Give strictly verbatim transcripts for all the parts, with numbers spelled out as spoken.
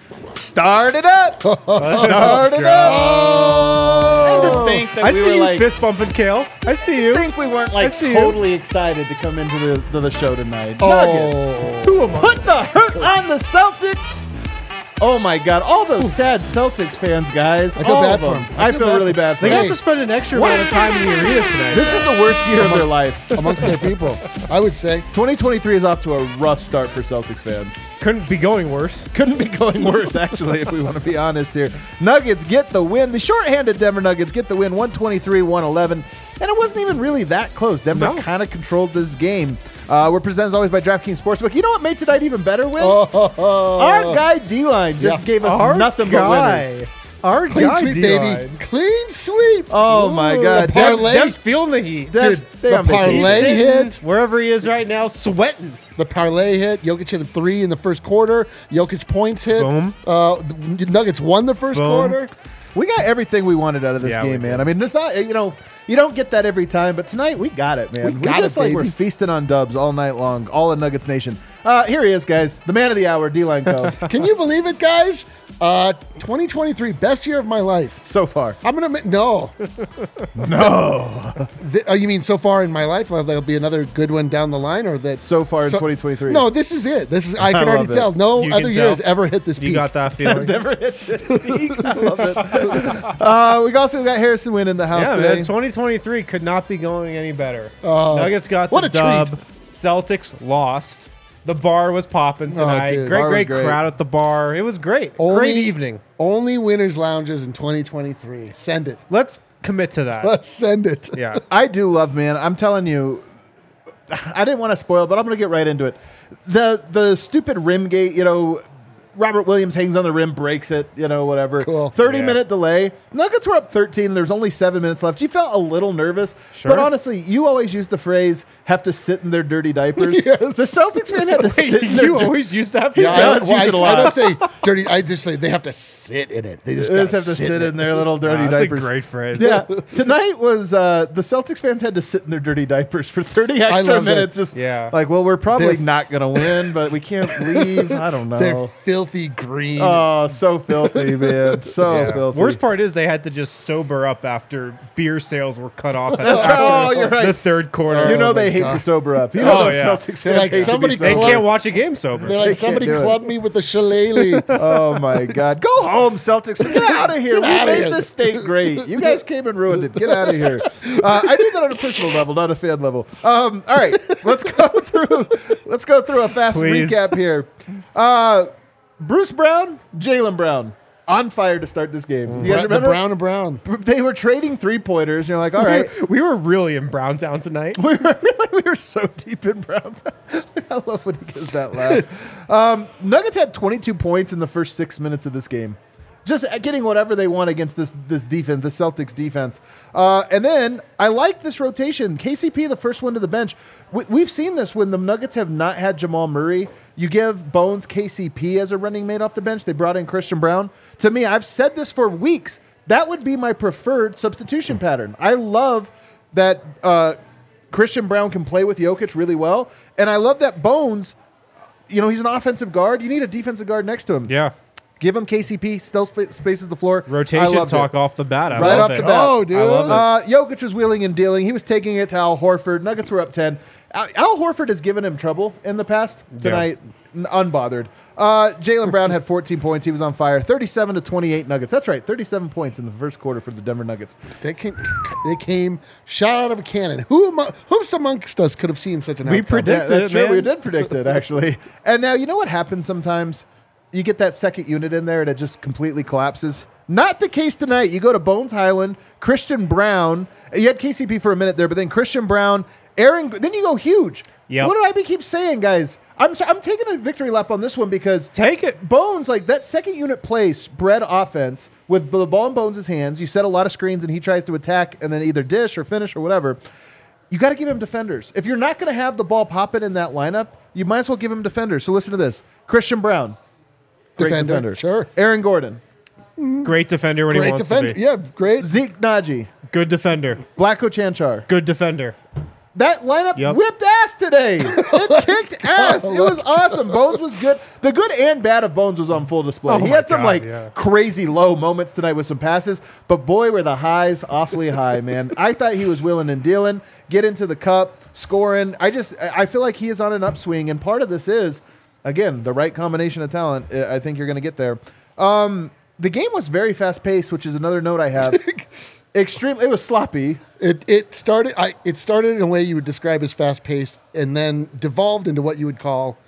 Start it up. Start it up. And to think that I we see were you like, fist bumping, Kale. I see you. I think we weren't like see you. totally excited to come into the, to the show tonight. Oh. Nuggets. Who am I? Put the hurt on the Celtics. Oh my God! All those sad Celtics fans, guys. I feel all bad of for them. them. I, I feel, feel bad really for- bad for They them. have to spend an extra amount of time in the arena tonight. This is the worst year of their life. amongst their people, I would say. twenty twenty-three is off to a rough start for Celtics fans. Couldn't be going worse. Couldn't be going worse, actually, if we want to be honest here. Nuggets get the win. The shorthanded Denver Nuggets get the win, one twenty-three one eleven. And it wasn't even really that close. Denver No. kind of controlled this game. Uh, we're presented as always by DraftKings Sportsbook. You know what made tonight even better, Win? Oh, Our guy D-Line just Yeah. gave us Our nothing guy. but winners. Our clean guy, sweep, D-line. baby. Clean sweep. Oh, my Ooh, God. the Dev's- parlay, Dev's feeling the heat. Dev's- Dude, they the on vacation. parlay Sitting hit. wherever he is right now, sweating. the parlay hit. Jokic hit a three in the first quarter. Jokic points hit. Boom. Uh, the Nuggets won the first Boom. quarter. We got everything we wanted out of this Yeah, we game, man. did. I mean, it's not, you know, you don't get that every time, but tonight we got it, man. We got just it, like baby. we're feasting on dubs all night long, all in Nuggets Nation. Uh, here he is, guys. The man of the hour, D-Line Co. Can you believe it, guys? Uh, twenty twenty-three, best year of my life. so far. I'm gonna ma- no, No. Th- oh, you mean so far in my life? Uh, there'll be another good one down the line, or that So far in twenty twenty-three. No, this is it. This is I can I already love it. tell. No You other can year tell. has ever hit this You peak. got that feeling? Never hit this peak. I love it. Uh, we also got Harrison Wynn in the house Yeah, today. man. twenty twenty-three could not be going any better. Oh, Nuggets got what the a dub. treat. Celtics lost. The bar was popping tonight. dude. great, Bar was great, great. crowd at the bar. It was great. Only- great evening. Only winners lounges in twenty twenty-three. Send it. Let's commit to that. Let's send it. yeah. I do love, man. I'm telling you, I didn't want to spoil, but I'm going to get right into it. The the stupid rim gate, you know, Robert Williams hangs on the rim, breaks it, you know, whatever. Cool. thirty Yeah. minute delay. Nuggets were up thirteen. There's only seven minutes left. You felt a little nervous. Sure. But honestly, you always use the phrase, have to sit in their dirty diapers. Yes. The Celtics fan had to sit in their you dir- always use that? Yeah, I does don't, well, use it a I, I lot. don't say dirty. I just say they have to sit in it. They just, They just gotta have to sit in in it. their little dirty Wow, that's diapers. a great phrase. Yeah, tonight was uh, the Celtics fans had to sit in their dirty diapers for thirty extra love that. minutes. Just Yeah. like, well, we're probably They're- not gonna win, but we can't leave. I don't They're know. filthy green. Oh, so filthy, man. So Yeah. filthy. Worst part is they had to just sober up after beer sales were cut off at That's after right. Oh, you're right. the third quarter. you Oh know my they hate God. to sober up. You know Oh, those yeah. Celtics They're fans like, hate somebody to be they sober. club- can't watch a game sober. They're They like, can't somebody do it. clubbed me with a shillelagh. Oh my God! Go home, Celtics. Get out of here. We outta made here. this state great. You guys came and ruined it. Get out of here. Uh, I did that on a personal level, not a fan level. Um, all right, let's go through. Let's go through a fast Please. recap here. Uh, Bruce Brown, Jaylen Brown, on fire to start this game. You guys the remember? brown and brown. They were trading three pointers. You're like, all right. We were really in Browntown tonight. We were really, we were so deep in Brown. I love when he gives that laugh. Um, Nuggets had twenty-two points in the first six minutes of this game. Just getting whatever they want against this this defense, the Celtics defense. Uh, and then I like this rotation. K C P, the first one to the bench. We, we've seen this when the Nuggets have not had Jamal Murray. You give Bones K C P as a running mate off the bench. They brought in Christian Brown. To me, I've said this for weeks. That would be my preferred substitution pattern. I love that uh, Christian Brown can play with Jokic really well. And I love that Bones, you know, he's an offensive guard. You need a defensive guard next to him. Yeah. Give him K C P, still sp- spaces the floor. I Rotation loved talk it. off the bat. I Right love off it. the bat. Oh, dude. I love it. Uh, Jokic was wheeling and dealing. He was taking it to Al Horford. Nuggets were up ten. Al, Al Horford has given him trouble in the past. Tonight, n- unbothered. Uh, Jaylen Brown had fourteen points. He was on fire. thirty-seven to twenty-eight Nuggets. That's right, thirty-seven points in the first quarter for the Denver Nuggets. They came, they came shot out of a cannon. Who among, who's amongst us could have seen such an We outcome? predict- Yeah, that's it, true. man. We did predict it, actually. And now, you know what happens sometimes? You get that second unit in there and it just completely collapses. Not the case tonight. You go to Bones Highland, Christian Brown. You had K C P for a minute there, but then Christian Brown, Aaron. Then you go huge. Yep. What did I be keep saying, guys? I'm so, I'm taking a victory lap on this one because Take it. Bones, like that second unit play spread offense with the ball in Bones' hands. You set a lot of screens and he tries to attack and then either dish or finish or whatever. You got to give him defenders. If you're not going to have the ball popping in that lineup, you might as well give him defenders. So listen to this. Christian Brown. Great Defender, defender. sure. Aaron Gordon. Great defender when he Great wants defender. to be. Yeah, great. Zeke Naji. Good defender. Blacko Chanchar. Good defender. That lineup Yep. whipped ass today. It kicked ass. It was awesome. Bones was good. The good and bad of Bones was on full display. Oh he my had some God, like yeah. crazy low moments tonight with some passes, but boy, were the highs awfully high, man. I thought he was willing and dealing, get into the cup, scoring. I just, I feel like he is on an upswing, and part of this is, again, the right combination of talent. I think you're going to get there. Um, the game was very fast paced, which is another note I have. Extremely, it was sloppy. It it started I it started in a way you would describe as fast paced, and then devolved into what you would call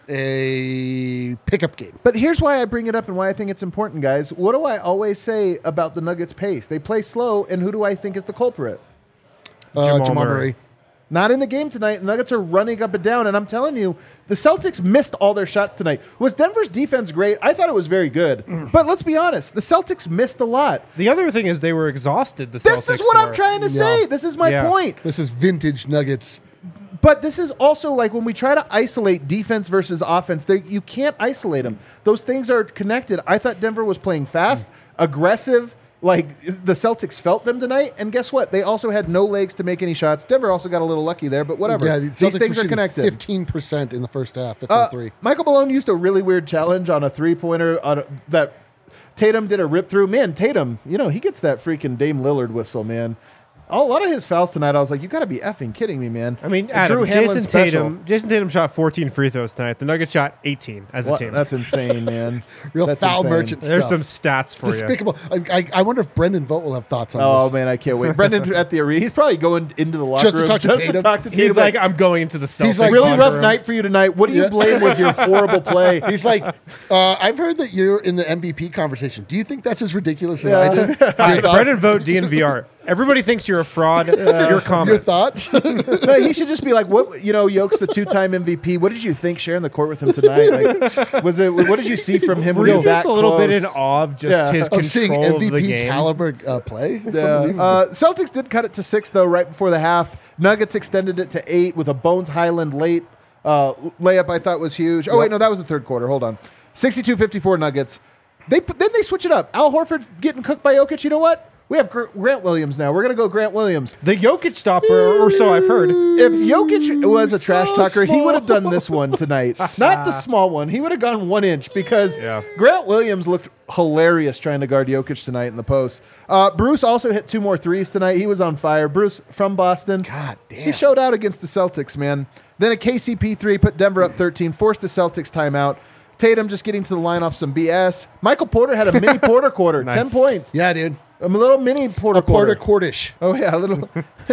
a pickup game. But here's why I bring it up and why I think it's important, guys. What do I always say about the Nuggets' pace? They play slow, and who do I think is the culprit? Uh, Jamal Jamal Murray. Murray. Not in the game tonight. The Nuggets are running up and down, and I'm telling you, the Celtics missed all their shots tonight. Was Denver's defense great? I thought it was very good. But let's be honest, the Celtics missed a lot. The other thing is they were exhausted. The This Celtics is what I'm were. trying to Yeah. say. This is my Yeah. point. This is vintage Nuggets. But this is also like when we try to isolate defense versus offense, they, you can't isolate them. Those things are connected. I thought Denver was playing fast, aggressive. Like the Celtics felt them tonight, and guess what? They also had no legs to make any shots. Denver also got a little lucky there, but whatever. Yeah, the These Celtics things were are connected. Fifteen percent in the first half. Fifteen Uh, three. Michael Malone used a really weird challenge on a three-pointer on a, that Tatum did a rip through. Man, Tatum, you know, he gets that freaking Dame Lillard whistle, man. A lot of his fouls tonight, I was like, you got to be effing kidding me, man. I mean, Drew Adam, Hanlon's Jason special. Tatum. Jason Tatum shot fourteen free throws tonight. The Nuggets shot eighteen as a What? team. That's insane, man. Real That's foul insane. merchant There's stuff. some stats for you. Despicable. I, I, I wonder if Brendan Vogt will have thoughts on Oh this. man, I can't wait. Brendan at the arena. He's probably going into the locker Just to room talk to just Tatum? to talk to Tatum. He's like, I'm going into the Celtics. He's like, really locker rough room." night for you tonight. What do you Yeah. blame with your horrible play? He's like, uh, I've heard that you're in the M V P conversation. Do you think that's as ridiculous as Yeah. I do? Your Hi, thoughts? Brendan Vogt, D N V R. Everybody thinks you're a fraud. Your comment. Your thoughts? No, he should just be like, what? You know, Yoke's the two-time M V P. What did you think sharing the court with him tonight? Like, was it? What did you see from him? Were when you he was just that a little bit close? in awe of just Yeah. his of seeing control M V of the P game? caliber uh, play? Yeah. Unbelievable. Uh, Celtics did cut it to six though, right before the half. Nuggets extended it to eight with a Bones Highland late uh, layup. I thought was huge. Oh wait, Yep. no, that was the third quarter. Hold on, sixty-two fifty-four Nuggets. They put- then they switch it up. Al Horford getting cooked by Jokic. You know what? We have Gr- Grant Williams now. We're gonna go Grant Williams. The Jokic stopper, or so I've heard. If Jokic was a trash so talker, he small. would have done this one tonight. Not the small one. He would have gone one inch because Yeah. Grant Williams looked hilarious trying to guard Jokic tonight in the post. Uh, Bruce also hit two more threes tonight. He was on fire. Bruce from Boston. God damn. He showed out against the Celtics, man. Then a K C P three put Denver up thirteen, forced the Celtics timeout. Tatum just getting to the line off some B S. Michael Porter had a mini Porter quarter, Nice. ten points. Yeah, dude. A little mini Porter A quarter quarter. quartish. Oh yeah, a little.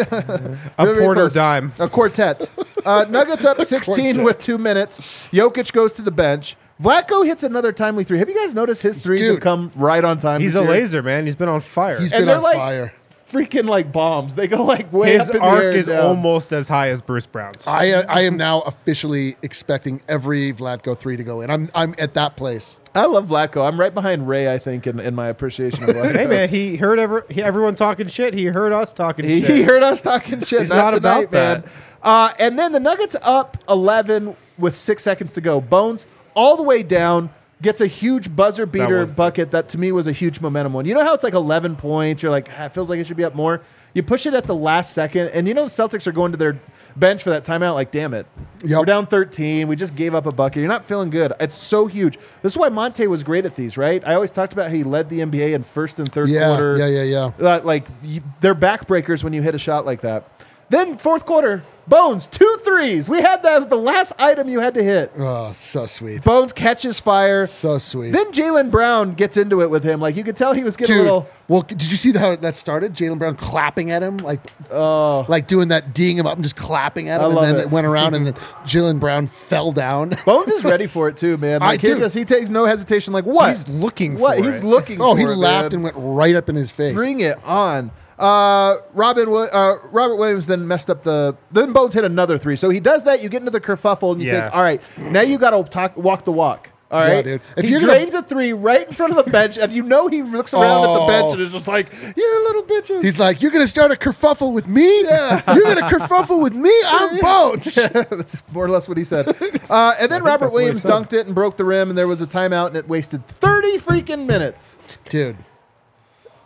A Very Porter close. dime. A quartet. Uh, Nuggets up sixteen quartet. with two minutes. Jokic goes to the bench. Vlatko hits another timely three. Have you guys noticed his threes Dude. have come right on time? He's this a year? laser, man. He's been on fire. He's And been they're on like- fire. Freaking like bombs. They go like way His up in the arc air. is and down. almost as high as Bruce Brown's. I uh, I am now officially expecting every Vlatko three to go in. I'm I'm at that place. I love Vlatko. I'm right behind Ray, I think, in, in my appreciation of Vlatko. Hey man, he heard ever, he, everyone talking shit. He heard us talking He, shit. he heard us talking shit. He's not, not tonight, about that. man. Uh, and then the Nuggets up eleven with six seconds to go. Bones all the way down. Gets a huge buzzer beater was- bucket that to me was a huge momentum one. You know how it's like eleven points? You're like, ah, it feels like it should be up more. You push it at the last second, and you know the Celtics are going to their bench for that timeout. Like, damn it, Yep. we're down thirteen. We just gave up a bucket. You're not feeling good. It's so huge. This is why Monte was great at these, right? I always talked about how he led the N B A in first and third Yeah, quarter. yeah, yeah, yeah. Uh, like y- they're backbreakers when you hit a shot like that. Then fourth quarter, Bones two threes. We had that the last item you had to hit. Oh, so sweet. Bones catches fire. So sweet. Then Jaylen Brown gets into it with him. Like you could tell he was getting Dude, a little. well, did you see how that started? Jaylen Brown clapping at him, like, Oh, like doing that, D'ing him up and just clapping at I him, and love then it. it went around, and then Jaylen Brown fell down. Bones is ready for it too, man. I Like he do. just he takes no hesitation. Like what? He's looking what? for He's it. looking. oh, for he it, laughed man. and went right up in his face. Bring it on. Uh, Robin, Wi- uh, Robert Williams then messed up the. Then Bones hit another three. So he does that. You get into the kerfuffle and you Yeah. think, all right, now you got to talk, walk the walk. All Yeah, right, dude. If he you're gonna- drains a three right in front of the bench, and you know he looks around at the Oh. bench and is just like, "You little bitches." He's like, "You're gonna start a kerfuffle with me? Yeah. You're gonna kerfuffle with me? I'm Bones." That's more or less what he said. Uh, and then Robert that's what he Williams said. dunked it and broke the rim, and there was a timeout, and it wasted thirty freaking minutes. Dude,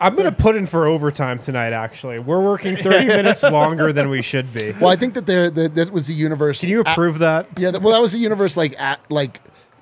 I'm going to put in for overtime tonight, actually. We're working thirty minutes longer than we should be. Well, I think that there that, that was the universe. Can you approve that? Yeah, that, well, that was the universe like at like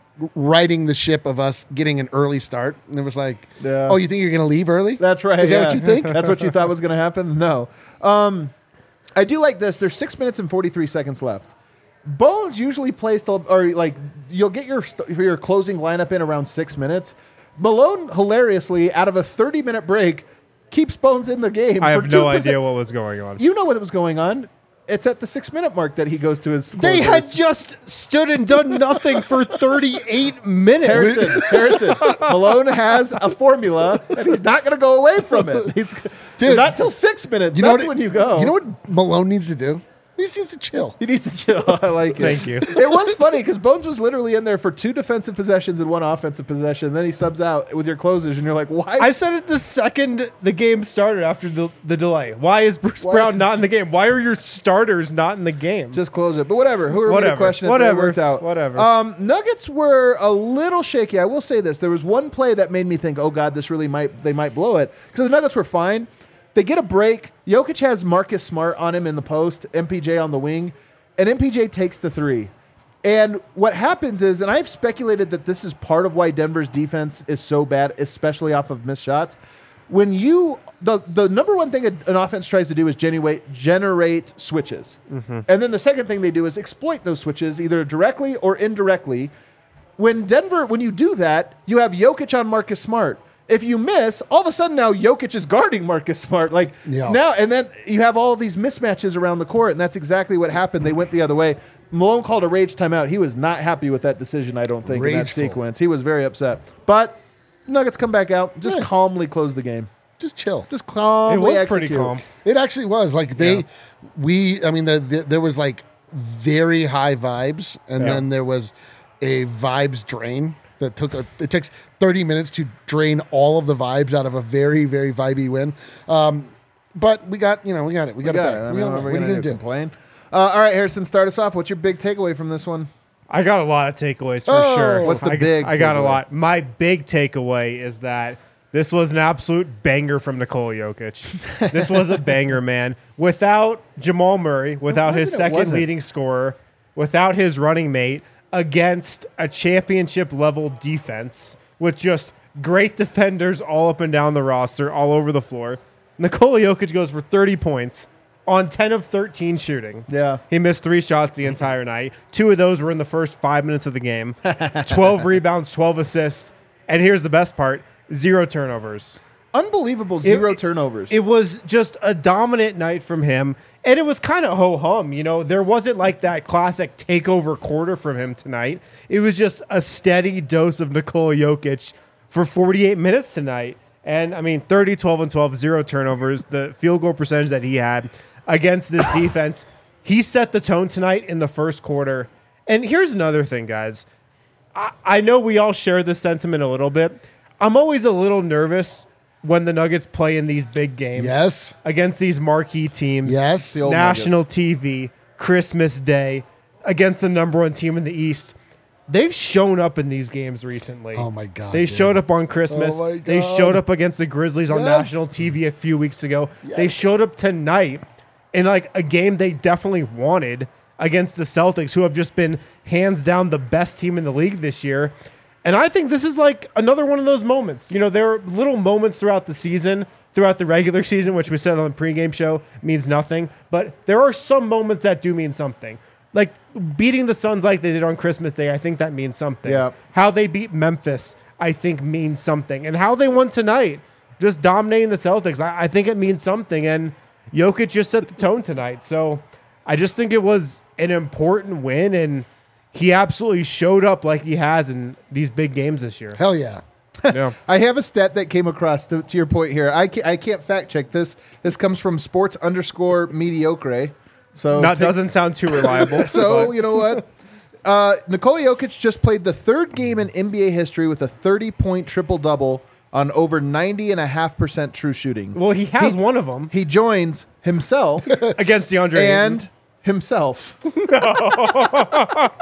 riding the ship of us getting an early start, and it was like, Yeah. oh, you think you're going to leave early? That's right. Is that yeah. what you think? That's what you thought was going to happen? No. Um, I do like this. There's six minutes and forty-three seconds left. Bones usually plays till, or like you'll get your st- your closing lineup in around six minutes. Malone, hilariously, out of a thirty-minute break, keeps Bones in the game. I for have two no percent. idea what was going on. You know what was going on. It's at the six-minute mark that he goes to his They closers. had just stood and done nothing for thirty-eight minutes. Harrison, Harrison, Malone has a formula, and he's not going to go away from it. He's, Dude, not till six minutes. You know That's what, when you go. You know what Malone needs to do? He just needs to chill. He needs to chill. I like it. Thank you. It was funny because Bones was literally in there for two defensive possessions and one offensive possession. Then he subs out with your closers, and you're like, why? I said it the second the game started after the, the delay. Why is Bruce Why Brown is- not in the game? Why are your starters not in the game? Just close it. But whatever. Who are we to Whatever. question it? Whatever. It worked out. Whatever. Um, Nuggets were a little shaky. I will say this. There was one play that made me think, oh, God, this really might, they might blow it. Because the Nuggets were fine. They get a break. Jokic has Marcus Smart on him in the post, M P J on the wing, and M P J takes the three. And what happens is, and I've speculated that this is part of why Denver's defense is so bad, especially off of missed shots. When you, the, the number one thing an offense tries to do is generate, generate switches. Mm-hmm. And then the second thing they do is exploit those switches either directly or indirectly. When Denver, when you do that, you have Jokic on Marcus Smart. If you miss, all of a sudden now Jokic is guarding Marcus Smart. Like Yeah. now, and then you have all of these mismatches around the court, and that's exactly what happened. They went the other way. Malone called a rage timeout. He was not happy with that decision, I don't think, in that Rageful. sequence. He was very upset. But Nuggets come back out, just Yeah. calmly close the game. Just chill. Just calmly it was execute. pretty calm. It actually was like they, Yeah. we. I mean, the, the, there was like very high vibes, and Yeah. then there was a vibes drain that took. A, it takes thirty minutes to drain all of the vibes out of a very very vibey win. Um, but we got you know we got it. We got, We got it. it. Back. I We mean, got it. what are What we are you gonna gonna do? Complain? Uh, all right, Harrison, start us off. What's your big takeaway from this one? I got a lot of takeaways for Oh, sure. what's the I, big I got a takeaway? lot. My big takeaway is that this was an absolute banger from Nikola Jokic. This was a banger, man. Without Jamal Murray, without his wasn't it second wasn't? leading scorer, without his running mate, against a championship level defense with just great defenders all up and down the roster, all over the floor. Nikola Jokic goes for thirty points on ten of thirteen shooting. Yeah. He missed three shots the entire night. Two of those were in the first five minutes of the game. twelve rebounds, twelve assists. And here's the best part, zero turnovers. Unbelievable zero turnovers. It was just a dominant night from him. And it was kind of ho-hum. You know, there wasn't like that classic takeover quarter from him tonight. It was just a steady dose of Nikola Jokic for forty-eight minutes tonight. And, I mean, thirty, twelve, and twelve, zero turnovers. The field goal percentage that he had against this defense, he set the tone tonight in the first quarter. And here's another thing, guys. I, I know we all share this sentiment a little bit. I'm always a little nervous when the Nuggets play in these big games. Yes. Against these marquee teams. Yes. The old National Nuggets. T V, Christmas Day, against the number one team in the East. They've shown up in these games recently. Oh, my God, They dude. showed up on Christmas. Oh, my They God. showed up against the Grizzlies on Yes. national T V a few weeks ago. They showed up tonight in like a game they definitely wanted against the Celtics, who have just been hands down the best team in the league this year. And I think this is like another one of those moments. You know, there are little moments throughout the season, throughout the regular season, which we said on the pregame show means nothing. But there are some moments that do mean something. Like beating the Suns like they did on Christmas Day, I think that means something. Yeah. How they beat Memphis, I think means something. And how they won tonight, just dominating the Celtics, I, I think it means something. And Jokic just set the tone tonight. So I just think it was an important win, and he absolutely showed up like he has in these big games this year. Hell yeah. Yeah. I have a stat that came across to, to your point here. I can't, I can't fact check this. This comes from sports underscore mediocre. So That pick- doesn't sound too reliable. So but you know what? Uh, Nikola Jokic just played the third game in N B A history with a thirty-point triple-double on over ninety and a half percent true shooting. well, he has he- one of them He joins himself against DeAndre Ayton. and himself.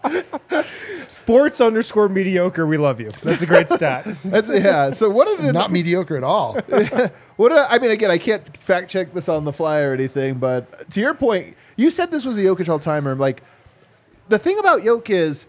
Sports underscore mediocre. We love you. That's a great stat. That's, yeah. So what did Not mediocre at all. What did, I mean, again, I can't fact check this on the fly or anything, but to your point, you said this was a Jokic all timer. Like the thing about Jokic is,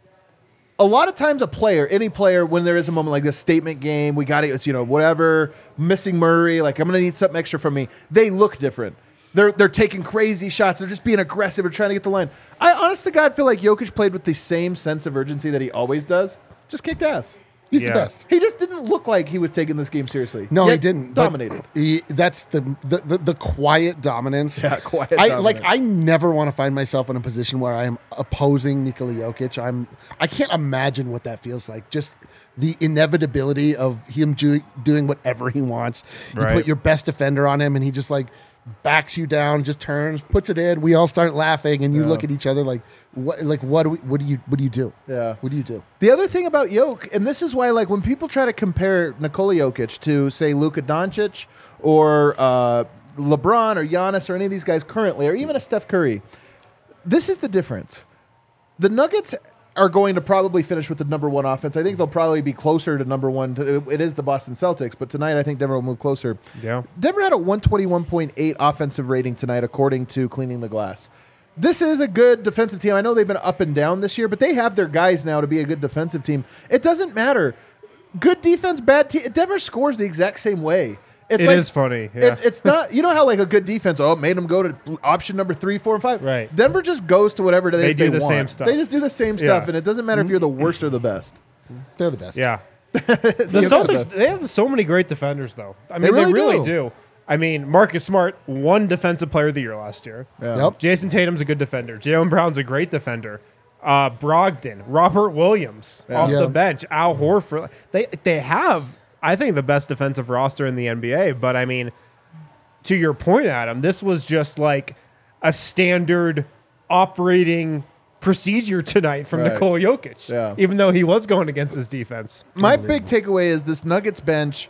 a lot of times a player, any player, when there is a moment like this statement game, we got it, it's, you know, whatever, missing Murray, like I'm going to need something extra from me. They look different. They're they're taking crazy shots. They're just being aggressive or trying to get the line. I honest to God feel like Jokic played with the same sense of urgency that he always does. Just kicked ass. He's Yeah. the best. He just didn't look like he was taking this game seriously. No, Yet he didn't. but Dominated. He, that's the, the, the, the quiet dominance. Yeah, quiet I dominance. like. I never want to find myself in a position where I am opposing Nikola Jokic. I'm. I can't imagine what that feels like. Just the inevitability of him do, doing whatever he wants. You Right. put your best defender on him, and he just like backs you down, just turns, puts it in. We all start laughing, and you Yeah. look at each other like, what? Like what? Do we, what do you? What do you do? Yeah. What do you do? The other thing about Jokic, and this is why, like, when people try to compare Nikola Jokic to, say, Luka Doncic or uh, LeBron or Giannis or any of these guys currently, or even a Steph Curry, this is the difference. The Nuggets are going to probably finish with the number one offense. I think they'll probably be closer to number one. To, it is the Boston Celtics, but tonight I think Denver will move closer. Yeah. Denver had a one twenty-one point eight offensive rating tonight, according to Cleaning the Glass. This is a good defensive team. I know they've been up and down this year, but they have their guys now to be a good defensive team. It doesn't matter. Good defense, bad team. Denver scores the exact same way. It's It like, is funny, yeah. It, it's not. You know how like a good defense, oh, it made them go to option number three, four, and five. Right. Denver just goes to whatever it is They do the want. same stuff. They just do the same stuff, Yeah. and it doesn't matter if you're the worst or the best. They're the best. Yeah. The You're Celtics, best. they have so many great defenders, though. I mean, They they really really, do. do. I mean, Marcus Smart won Defensive Player of the Year last year. Yeah. Yep. Jason Tatum's a good defender. Jaylen Brown's a great defender. Uh, Brogdon, Robert Williams off Yeah. the bench, Al Horford. They they have, I think, the best defensive roster in the N B A. But I mean, to your point, Adam, this was just like a standard operating procedure tonight from Right. Nikola Jokic. Yeah. Even though he was going against his defense. My big takeaway is this Nuggets bench.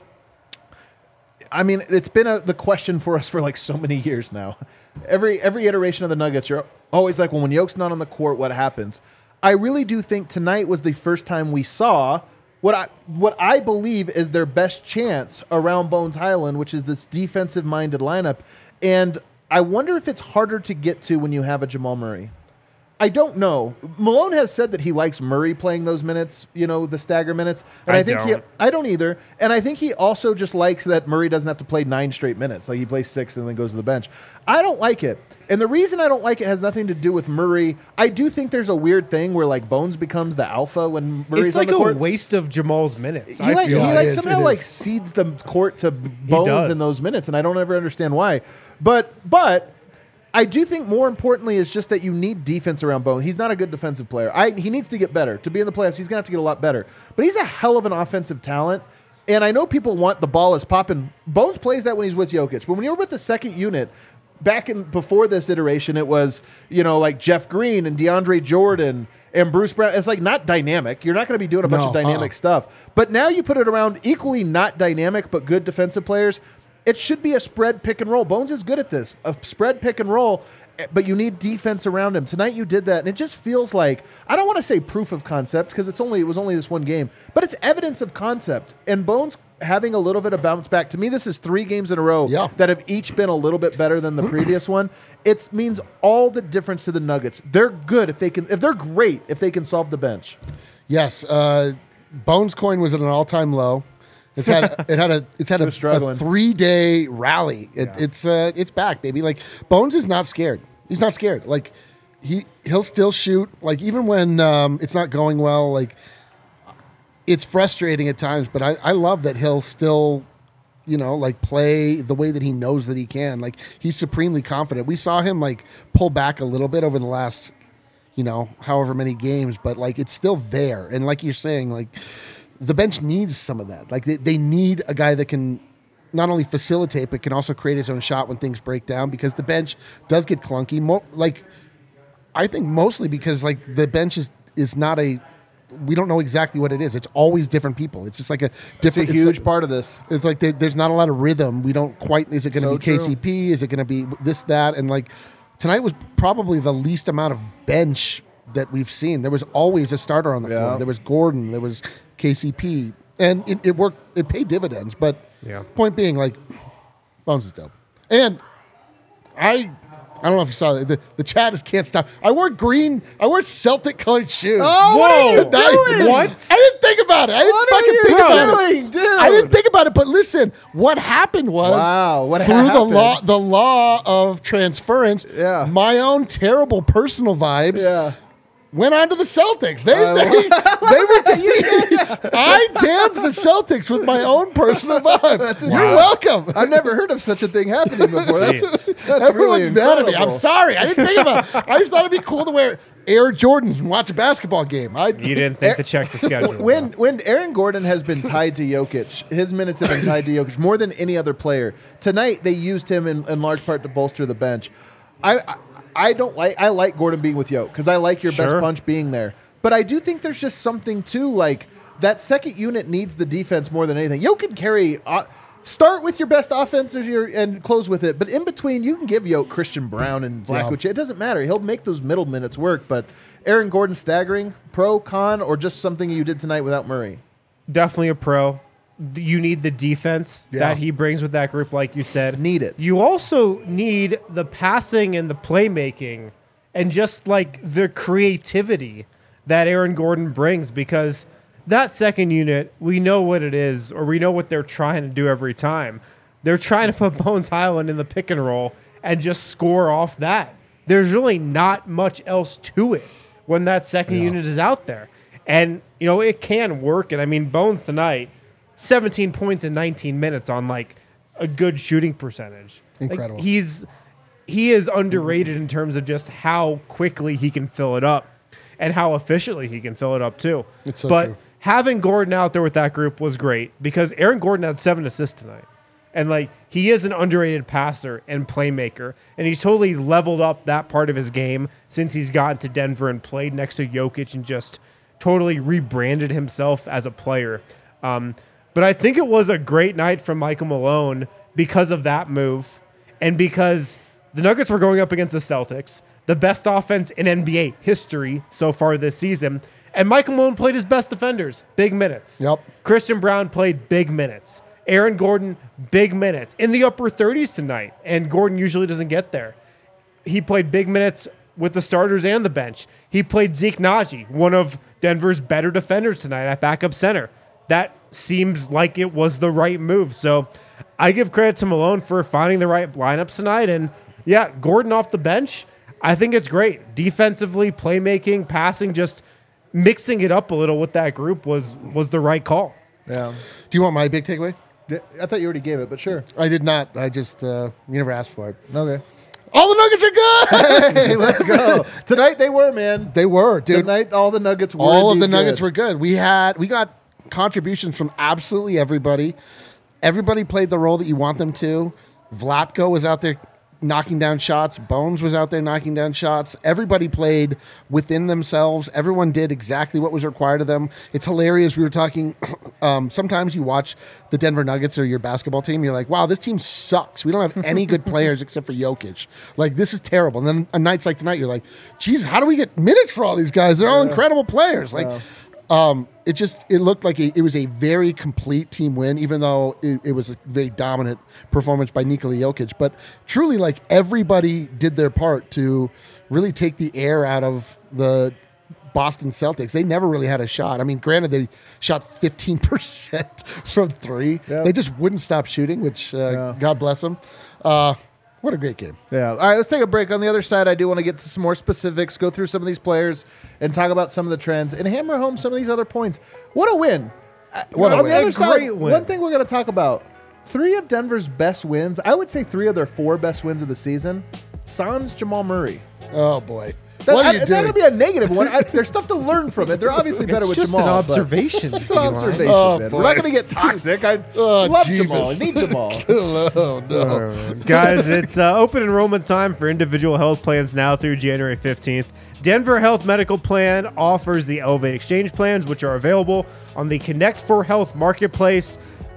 I mean, it's been a, the question for us for like so many years now. Every every iteration of the Nuggets, you're always like, well, when Yoke's not on the court, what happens? I really do think tonight was the first time we saw what I what I believe is their best chance around Bones Highland, which is this defensive-minded lineup. And I wonder if it's harder to get to when you have a Jamal Murray. I don't know. Malone has said that he likes Murray playing those minutes, you know, the stagger minutes. And I, I think he don't. I don't either. And I think he also just likes that Murray doesn't have to play nine straight minutes. Like he plays six and then goes to the bench. I don't like it. And the reason I don't like it has nothing to do with Murray. I do think there's a weird thing where like Bones becomes the alpha when Murray's It's like on the a court. waste of Jamal's minutes. He I like, he feel. Yeah, like it is, somehow it like is. cedes the court to Bones does. in those minutes, and I don't ever understand why. But but I do think more importantly is just that you need defense around Bones. He's not a good defensive player. I he needs to get better. To be in the playoffs, he's gonna have to get a lot better. But he's a hell of an offensive talent. And I know people want the ball is popping. Bones plays that when he's with Jokic. But when you're with the second unit, back in before this iteration, it was, you know, like Jeff Green and DeAndre Jordan and Bruce Brown. It's like not dynamic. You're not going to be doing a bunch No, of dynamic uh-uh. stuff. But now you put it around equally not dynamic but good defensive players. It should be a spread pick and roll. Bones is good at this. A spread pick and roll, but you need defense around him. Tonight you did that, and it just feels like, I don't want to say proof of concept because it's only it was only this one game, but it's evidence of concept. And Bones having a little bit of bounce back. To me, this is three games in a row Yeah. that have each been a little bit better than the previous one. It means all the difference to the Nuggets. They're good if they can. If they're great, if they can solve the bench. Yes, uh, Bones coin was at an all-time low. It's had it had a it's had It a, was struggling. a three-day rally. It, Yeah. It's uh, it's back, baby. Like Bones is not scared. He's not scared. Like he he'll still shoot. Like even when um, it's not going well. Like it's frustrating at times, but I, I love that he'll still, you know, like play the way that he knows that he can. Like he's supremely confident. We saw him like pull back a little bit over the last, you know, however many games, but like it's still there. And like you're saying, like the bench needs some of that. Like they, they need a guy that can not only facilitate, but can also create his own shot when things break down, because the bench does get clunky. Mo- like I think mostly because like the bench is, is not a, we don't know exactly what it is. It's always different people. It's just like a It's a different, it's huge like- part of this. it's like there, there's not a lot of rhythm. We don't quite. Is it going to So be K C P? Is it going to be this, that? And like tonight was probably the least amount of bench that we've seen. There was always a starter on the Yeah. floor. There was Gordon. There was K C P, and it, it worked. It paid dividends. But Yeah. point being, like, Bones is dope. And I, I don't know if you saw that. The, the chat is can't stop. I wore green. I wore Celtic colored shoes. Oh, what are you Tonight. doing? What? I didn't think about it. I didn't What are fucking you think about doing, it. dude? I didn't think about it. But listen, what happened was Wow, what through the happened? law, the law of transference. Yeah. My own terrible personal vibes. Yeah. Went on to the Celtics. They Uh, they, they were defeated. I damned the Celtics with my own personal vibe. That's You're wow. welcome. I've never heard of such a thing happening before. That's, Jeez. that's Everyone's really mad at me. I'm incredible. sorry. I didn't think about it. I just thought it'd be cool to wear Air Jordans and watch a basketball game. I You didn't think to check the schedule. When when Aaron Gordon has been tied to Jokic, his minutes have been tied to Jokic more than any other player. Tonight they used him in, in large part to bolster the bench. I I, I don't like I like Gordon being with Jokic because I like your best Sure. punch being there. But I do think there's just something too like that second unit needs the defense more than anything. Jokic can carry. Uh, Start with your best offense as your, and close with it. But in between, you can give Yoke Christian Brown and Vlahovic. It doesn't matter. He'll make those middle minutes work. But Aaron Gordon staggering, pro, con, or just something you did tonight without Murray? Definitely a pro. You need the defense Yeah. that he brings with that group, like you said. Need it. You also need the passing and the playmaking and just like the creativity that Aaron Gordon brings, because that second unit, we know what it is, or we know what they're trying to do every time. They're trying to put Bones Highland in the pick and roll and just score off that. There's really not much else to it when that second Yeah. unit is out there. And, you know, it can work. And I mean, Bones tonight, seventeen points in nineteen minutes on like a good shooting percentage. Like, Incredible. he's he is underrated in terms of just how quickly he can fill it up and how efficiently he can fill it up too. It's so but true. having Gordon out there with that group was great because Aaron Gordon had seven assists tonight. And like he is an underrated passer and playmaker, and he's totally leveled up that part of his game since he's gotten to Denver and played next to Jokic and just totally rebranded himself as a player. Um, but I think it was a great night from Michael Malone because of that move and because the Nuggets were going up against the Celtics, the best offense in N B A history so far this season, and Michael Malone played his best defenders, big minutes. Yep. Christian Brown played big minutes. Aaron Gordon, big minutes in the upper thirties tonight, and Gordon usually doesn't get there. He played big minutes with the starters and the bench. He played Zeke Naji, one of Denver's better defenders tonight at backup center. That seems like it was the right move. So I give credit to Malone for finding the right lineups tonight. And yeah, Gordon off the bench, I think it's great. Defensively, playmaking, passing, just mixing it up a little with that group was was the right call. Yeah. Do you want my big takeaway? I thought you already gave it, but sure. I did not. I just uh, you never asked for it. Okay. All the Nuggets are good. Hey, let's go. Tonight they were, man. They were, dude. Tonight all the Nuggets were. All of the indeed Nuggets good. were good. We had we got contributions from absolutely everybody. Everybody played the role that you want them to. Vlatko was out there knocking down shots. Bones was out there knocking down shots. Everybody played within themselves. Everyone did exactly what was required of them. It's hilarious. We were talking. Um, sometimes you watch the Denver Nuggets or your basketball team. You're like, wow, this team sucks. We don't have any good players except for Jokic. Like, this is terrible. And then on nights like tonight, you're like, geez, how do we get minutes for all these guys? They're all incredible players. Like, Um, it just it looked like a, it was a very complete team win, even though it, it was a very dominant performance by Nikola Jokic. But truly, like, everybody did their part to really take the air out of the Boston Celtics. They never really had a shot. I mean, granted, they shot fifteen percent from three. Yeah. They just wouldn't stop shooting, which uh, Yeah. God bless them. Uh, what a great game. Yeah. All right, let's take a break. On the other side, I do want to get to some more specifics, go through some of these players, and talk about some of the trends, and hammer home some of these other points. What a win. What a On win. the other A side, great win. one thing we're going to talk about, three of Denver's best wins, I would say three of their four best wins of the season, sans Jamal Murray. Oh, boy. That, what are I, you that's doing? going to be a negative one. I, there's stuff to learn from it. They're obviously better It's with just Jamal. an but- observation. Just an Eli. observation, Oh, man. boy. We're not going to get toxic. I Oh, love Jesus. Jamal. I need Jamal. oh, no. Guys, it's uh, open enrollment time for individual health plans now through January fifteenth. Denver Health Medical Plan offers the Elevate Exchange plans, which are available on the Connect for Health marketplace.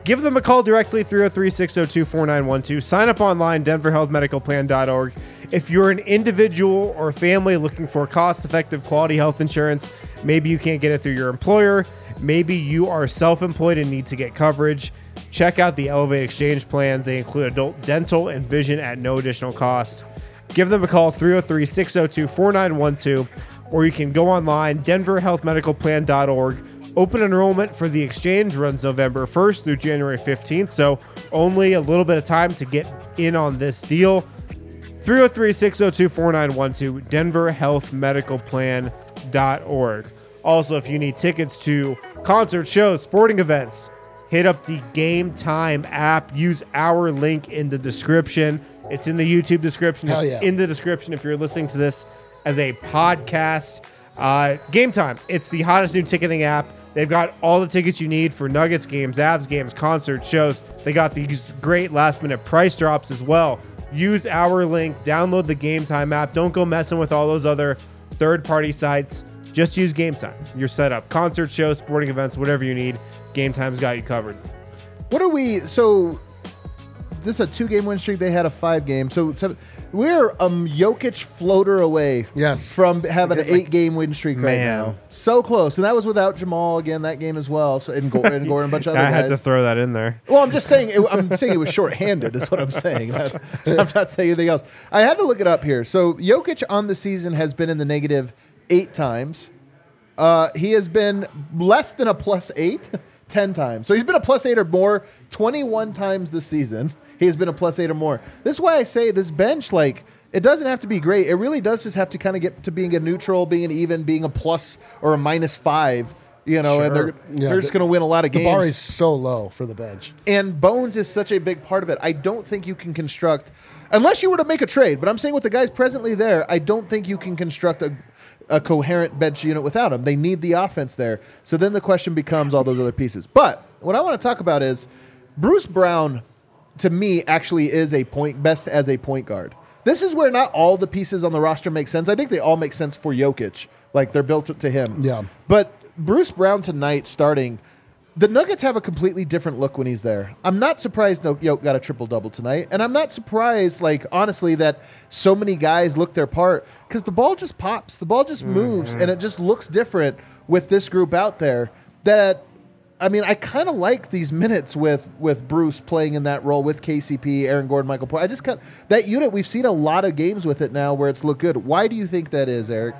Give them a call directly, three oh three, six oh two, four nine one two. Sign up online, denver health medical plan dot org. If you're an individual or family looking for cost-effective quality health insurance, maybe you can't get it through your employer, maybe you are self-employed and need to get coverage, check out the Elevate Exchange plans. They include adult dental and vision at no additional cost. Give them a call, three oh three, six oh two, four nine one two, or you can go online, denver health medical plan dot org. Open enrollment for the exchange runs November first through January fifteenth, so only a little bit of time to get in on this deal. three oh three, six oh two, four nine one two, denver health medical plan dot org. Also, if you need tickets to concert shows, sporting events, hit up the Game Time app. Use our link in the description. It's in the YouTube description. Hell It's yeah. in the description if you're listening to this as a podcast. Uh, Game Time. It's the hottest new ticketing app. They've got all the tickets you need for Nuggets games, Avs games, concert shows. They got these great last minute price drops as well. Use our link. Download the Game Time app. Don't go messing with all those other third party sites. Just use Game Time. You're set up. Concert shows, sporting events, whatever you need. Game Time's got you covered. What are we? So this is a two-game win streak. They had a five-game. So, so we're a Jokic floater away. Yes. From having an Like- eight-game win streak right Man. now. So close, and that was without Jamal again that game as well. So and Gordon, and Gordon, a bunch of other I had guys. to throw that in there. Well, I'm just saying. It, I'm saying it was shorthanded. Is what I'm saying. I'm not saying anything else. I had to look it up here. So Jokic on the season has been in the negative eight times. Uh, he has been less than a plus eight ten times. So he's been a plus eight or more twenty-one times this season. He has been a plus eight or more. This is why I say this bench, like, it doesn't have to be great. It really does just have to kind of get to being a neutral, being an even, being a plus or a minus five. You know, and they're Yeah, they're just the- going to win a lot of The games. bar is so low for the bench. And Bones is such a big part of it. I don't think you can construct, unless you were to make a trade, but I'm saying with the guys presently there, I don't think you can construct a, a coherent bench unit without him. They need the offense there. So then the question becomes all those other pieces. But what I want to talk about is Bruce Brown, to me, actually is a point best as a point guard. This is where not all the pieces on the roster make sense. I think they all make sense for Jokic. Like, they're built to him. Yeah. But Bruce Brown tonight starting, the Nuggets have a completely different look when he's there. I'm not surprised no Yoke got a triple-double tonight, and I'm not surprised, like, honestly, that so many guys look their part because the ball just pops. The ball just moves, and it just looks different with this group out there that, I mean, I kind of like these minutes with, with Bruce playing in that role with K C P, Aaron Gordon, Michael Porter. I just kind that unit, we've seen a lot of games with it now where it's looked good. Why do you think that is, Eric?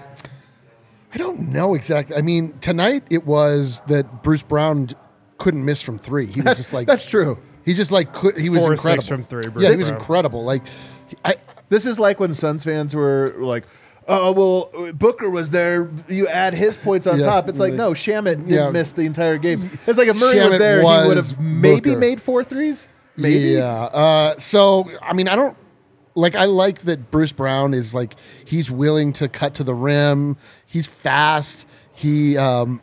I don't know exactly. I mean, tonight it was that Bruce Brown couldn't miss from three. He was just like That's true. He just like could, he was Four or incredible six from three, Bruce yeah, he was Brown. incredible. Like, I This is like when Suns fans were like, oh, well, Booker was there. You add his points on Yeah. top. It's like, no, Shamit didn't Yeah. miss the entire game. It's like if Murray was Shamet there, he was would have maybe Booker. made four threes. Maybe. Yeah. Uh, so I mean, I don't like. I like that Bruce Brown is like he's willing to cut to the rim. He's fast. He um,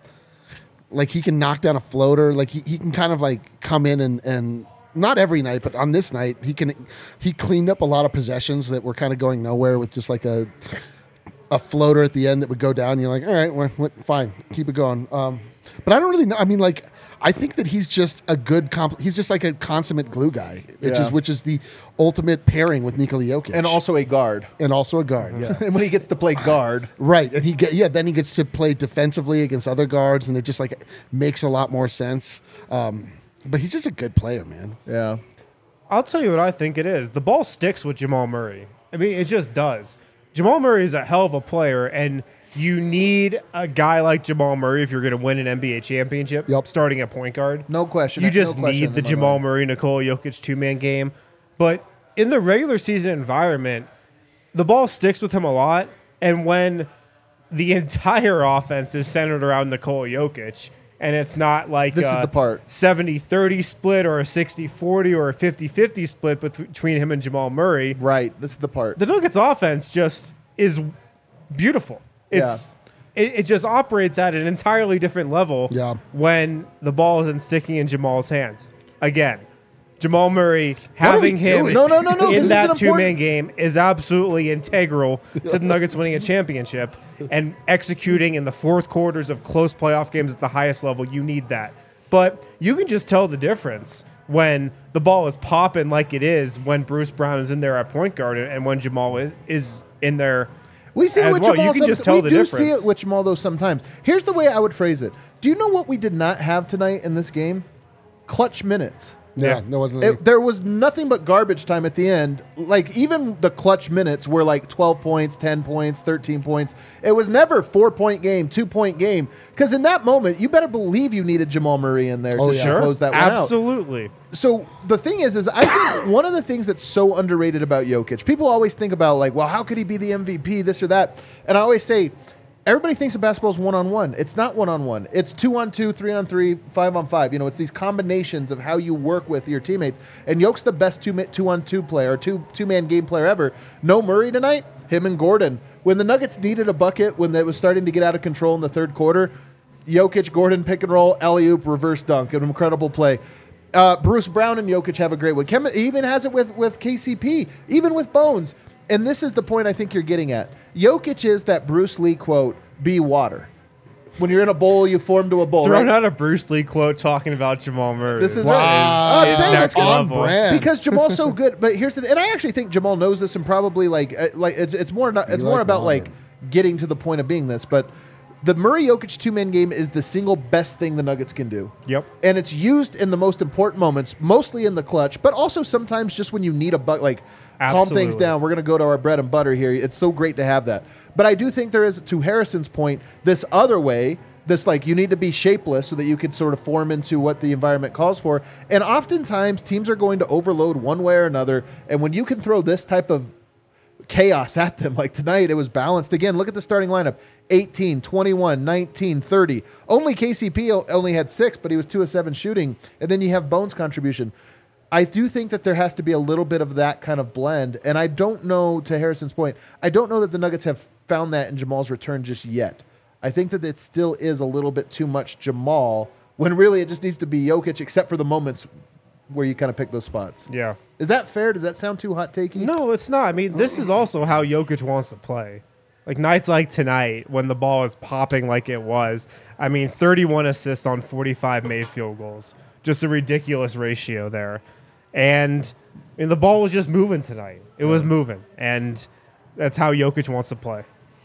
like he can knock down a floater. Like he, he can kind of like come in and and not every night, but on this night he can he cleaned up a lot of possessions that were kind of going nowhere with just like a a floater at the end that would go down. You're like, all right, well, well, fine, keep it going. Um, but I don't really know. I mean, like, I think that he's just a good comp. He's just like a consummate glue guy, which Yeah. is which is the ultimate pairing with Nikola Jokic, And also a guard. and also a guard. Yeah, And when he gets to play guard, right. And he get yeah. Then he gets to play defensively against other guards, and it just like makes a lot more sense. Um, but he's just a good player, man. yeah. I'll tell you what I think it is. The ball sticks with Jamal Murray. I mean, it just does. Jamal Murray is a hell of a player, and you need a guy like Jamal Murray if you're going to win an N B A championship, Yep. starting at point guard. No question. You No just question need in the my Jamal mind. Murray, Nikola Jokic two-man game. But in the regular season environment, the ball sticks with him a lot, and when the entire offense is centered around Nikola Jokic, and it's not like This is a the part. seventy thirty split or a sixty forty or a fifty fifty split between him and Jamal Murray, Right. This is the part. the Nuggets offense just is beautiful. It's it, it just operates at an entirely different level Yeah. when the ball isn't sticking in Jamal's hands. Again, Jamal Murray having we him doing? No, no, no, no. This in is that an two-man important- game is absolutely integral to the Nuggets winning a championship and executing in the fourth quarters of close playoff games at the highest level. You need that. But you can just tell the difference when the ball is popping like it is when Bruce Brown is in there at point guard and when Jamal is, is in there. We see it as with well. Jamal. You can some- just tell we the do difference. see it with Jamal though sometimes. Here's the way I would phrase it. Do you know what we did not have tonight in this game? Clutch minutes. Yeah, Yeah. there wasn't any. It, there was nothing but garbage time at the end. Like, even the clutch minutes were like twelve points, ten points, thirteen points. It was never four-point game, two-point game. Because in that moment, you better believe you needed Jamal Murray in there Oh, to yeah. close that one out. Absolutely. So the thing is, is I think one of the things that's so underrated about Jokic, people always think about like, well, how could he be the M V P, this or that? And I always say, everybody thinks of basketball as one-on-one. It's not one-on-one. It's two-on-two, three-on-three, five-on-five. You know, it's these combinations of how you work with your teammates. And Yoke's the best two, two-on-two player, or two, two-man game player ever. No Murray tonight, him and Gordon. When the Nuggets needed a bucket, when it was starting to get out of control in the third quarter, Jokic, Gordon, pick and roll, alley-oop, reverse dunk, an incredible play. Uh, Bruce Brown and Jokic have a great one. Kem- he even has it with, with K C P, even with Bones. And this is the point I think you're getting at. Jokic is that Bruce Lee quote, be water. When you're in a bowl, you form to a bowl. Throwing right? out a Bruce Lee quote talking about Jamal Murray. This is Wow. right. is I'm saying next it's on level. brand. because Jamal's so good. But here's the, and I actually think Jamal knows this, and probably like, uh, like it's, it's more, not, it's You more like about water. like getting to the point of being this. But the Murray Jokic two man game is the single best thing the Nuggets can do. Yep. And it's used in the most important moments, mostly in the clutch, but also sometimes just when you need a buck, like calm things Absolutely. down. We're going to go to our bread and butter here. It's so great to have that. But I do think there is, to Harrison's point, this other way, this like you need to be shapeless so that you can sort of form into what the environment calls for. And oftentimes teams are going to overload one way or another. And when you can throw this type of chaos at them, like tonight, it was balanced. Again, look at the starting lineup. eighteen, twenty-one, nineteen, thirty. Only K C P o- only had six, but he was two of seven shooting. And then you have Bones' contribution. I do think that there has to be a little bit of that kind of blend. And I don't know, to Harrison's point, I don't know that the Nuggets have found that in Jamal's return just yet. I think that it still is a little bit too much Jamal when really it just needs to be Jokic, except for the moments where you kind of pick those spots. Yeah. Is that fair? Does that sound too hot takey? No, it's not. I mean, this is also how Jokic wants to play. Like nights like tonight, when the ball is popping like it was. I mean, thirty-one assists on forty-five made field goals. Just a ridiculous ratio there. And I mean, the ball was just moving tonight. It was moving. And that's how Jokic wants to play.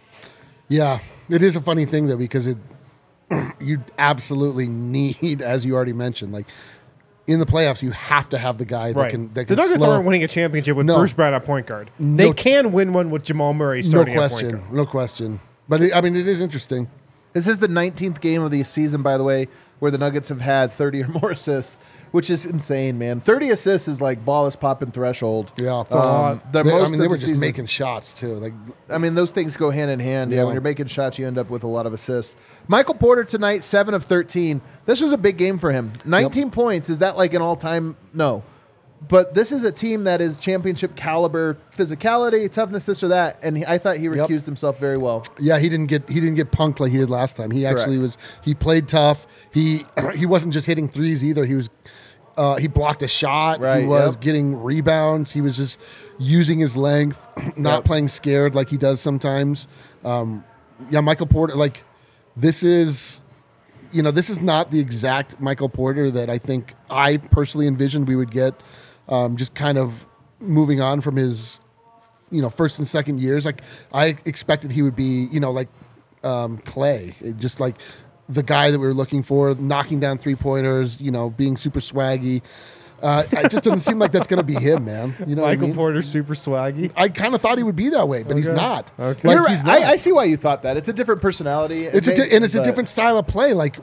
Yeah, it is a funny thing though because it you absolutely need, as you already mentioned, like in the playoffs, you have to have the guy that Right. can that the can Nuggets slow. aren't winning a championship with No. Bruce Brown at point guard. No they ch- can win one with Jamal Murray No starting at point question, guard. no question. But it, I mean, it is interesting. This is the nineteenth game of the season, by the way, where the Nuggets have had thirty or more assists, which is insane, man. thirty assists is like ball is popping threshold. Yeah, It's a lot. The They- most I mean, of they the were just season- making shots too. Like, I mean, those things go hand in hand. Yeah, Yeah. when you're making shots, you end up with a lot of assists. Michael Porter tonight, seven of thirteen. This was a big game for him. nineteen points. Is that like an all-time? No. But this is a team that is championship caliber physicality, toughness, this or that. And he, I thought he Yep. recused himself very well. yeah, he didn't get he didn't get punked like he did last time. He actually Correct. was he played tough. He he wasn't just hitting threes either. He was uh, he blocked a shot. Right, he was yep. getting rebounds. He was just using his length, not Yep. playing scared like he does sometimes. Um, yeah, Michael Porter. Like this is. You know, this is not the exact Michael Porter that I think I personally envisioned we would get. Um, just kind of moving on from his, you know, first and second years. Like I expected he would be, you know, like um, Clay, It just like the guy that we were looking for, knocking down three pointers, you know, being super swaggy. Uh, it just doesn't seem like that's going to be him, man. You know, what I Michael mean? Porter, super swaggy. I kind of thought he would be that way, but he's Okay. not. Okay. Like, You're right. he's not. I, I see why you thought that. It's a different personality. it's a It may- di- and it's a but different style of play. Like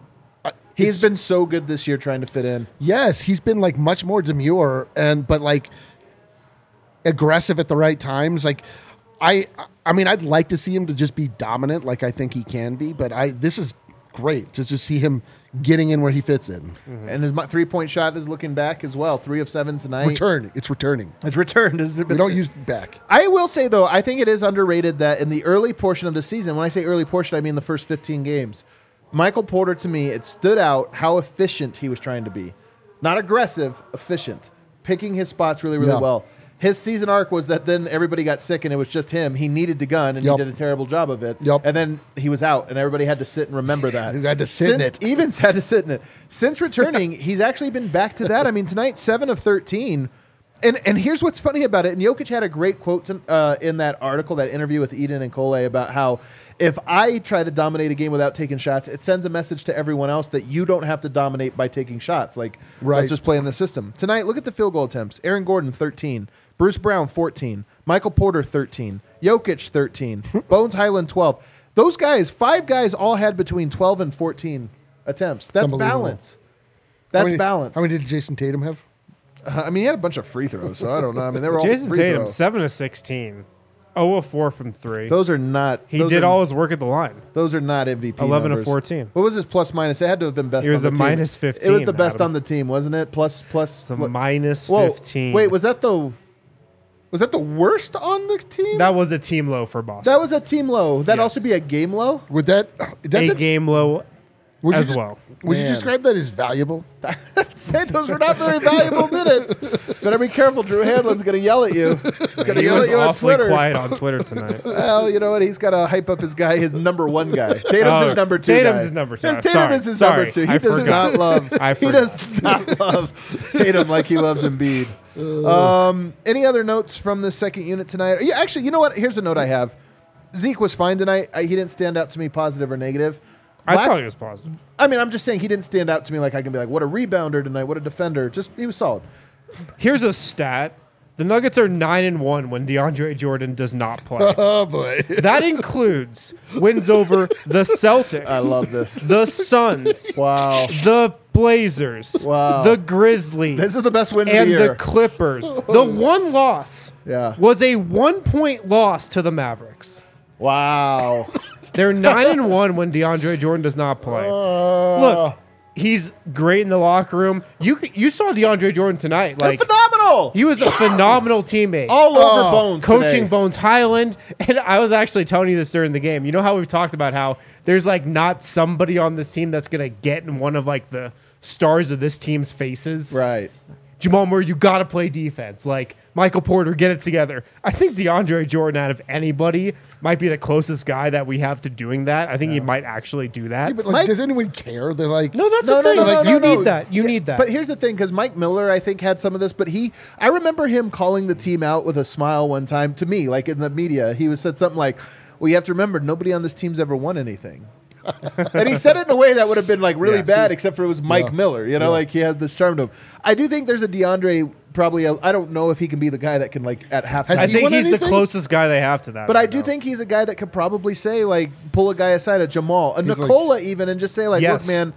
He's been so good this year trying to fit in. yes, he's been like much more demure and but like aggressive at the right times. Like I I mean I'd like to see him to just be dominant like I think he can be, but I this is great to just see him getting in where he fits in. And his three point shot is looking back as well. Three of seven tonight. Return, it's returning. It's returned. It's We don't use back. I will say, though, I think it is underrated that in the early portion of the season, when I say early portion, I mean the first fifteen games, Michael Porter, to me, it stood out how efficient he was trying to be. Not aggressive, efficient. Picking his spots really, really Yeah. well. his season arc was that then everybody got sick and it was just him. He needed the gun and Yep. he did a terrible job of it. Yep. And then he was out and everybody had to sit and remember that. He had to sit in Since- it. Evans had to sit in it. Since returning, he's actually been back to that. I mean, tonight, seven of thirteen. And and here's what's funny about it. And Jokic had a great quote to, uh, in that article, that interview with Eden and Cole, about how if I try to dominate a game without taking shots, it sends a message to everyone else that you don't have to dominate by taking shots. Like, Right. let's just play in the system. Tonight, look at the field goal attempts. Aaron Gordon, thirteen. Bruce Brown, fourteen. Michael Porter, thirteen. Jokic, thirteen. Bones Highland, twelve. Those guys, five guys, all had between twelve and fourteen attempts. That's unbelievable. balance. How That's many- balance. How many did Jason Tatum have? Uh, I mean, he had a bunch of free throws, so I don't know. I mean, they were all Jason free Tatum, throws. seven of sixteen. oh of four from three. Those are not. he those did are, all his work at the line. Those are not M V P. eleven of numbers. fourteen. What was his plus minus? It had to have been best. It was on a the team. minus It was fifteen, the best Adam. on the team, wasn't it? Plus plus. It's a pl- minus Whoa, fifteen. Wait, was that the? Was that the worst on the team? that was a team low for Boston. That was a team low. That'd Yes. also be a game low. Would that, that a that- game low would you as de- well. Would you Man. describe that as valuable? Say those were not very valuable minutes. Better be careful. Drew Hanlon's going to yell at you. He's going to He yell was at you on awfully Twitter. quiet on Twitter tonight. Well, you know what? He's got to hype up his guy, his number one guy. Tatum's Oh, his number two. Tatum's guy. his number two. His- Tatum Sorry, is his sorry. number two. He I does forgot. not love. I he forgot. does not love Tatum like he loves Embiid. Um, any other notes from the second unit tonight? Yeah, actually, you know what? Here's a note I have. Zeke was fine tonight. I, he didn't stand out to me positive or negative. I Black- thought he was positive. I mean, I'm just saying he didn't stand out to me like I can be like, what a rebounder tonight, what a defender. Just he was solid. Here's a stat. The Nuggets are nine and one when DeAndre Jordan does not play. Oh boy. That includes wins over the Celtics. I love this. The Suns. Wow. The Blazers. Wow. The Grizzlies. This is the best win of and the year. the Clippers. The one loss Yeah. was a one point loss to the Mavericks. Wow. They're nine and one when DeAndre Jordan does not play. Uh. Look, he's great in the locker room. You c- you saw DeAndre Jordan tonight. Like phenomenal. he was a phenomenal teammate. All over Oh, Bones Coaching today. Bones Highland, and I was actually telling you this during the game. You know how we've talked about how there's like not somebody on this team that's gonna get in one of like the stars of this team's faces. Right. Jamal Murray, you got to play defense. Like Michael Porter, get it together. I think DeAndre Jordan, out of anybody, might be the closest guy that we have to doing that. I think he might actually do that. Yeah, but like, Mike- does anyone care? They're like, no, that's No, the no, thing. no, like no, you no, need no. that. You Yeah, need that. But here's the thing, because Mike Miller, I think, had some of this, but he, I remember him calling the team out with a smile one time to me, like in the media. He was said something like, well, you have to remember, nobody on this team's ever won anything. And he said it in a way that would have been like really Yes. bad, except for it was Mike Yeah. Miller. You know, Yeah. like he had this charm to him. I do think there's a DeAndre probably. A, I don't know if he can be the guy that can like at halftime. Has I he think won he's anything? the closest guy they have to that. But I right do now. think he's a guy that could probably say like pull a guy aside, a Jamal, a He's like- Nicola, even, and just say like, Yes. look, man.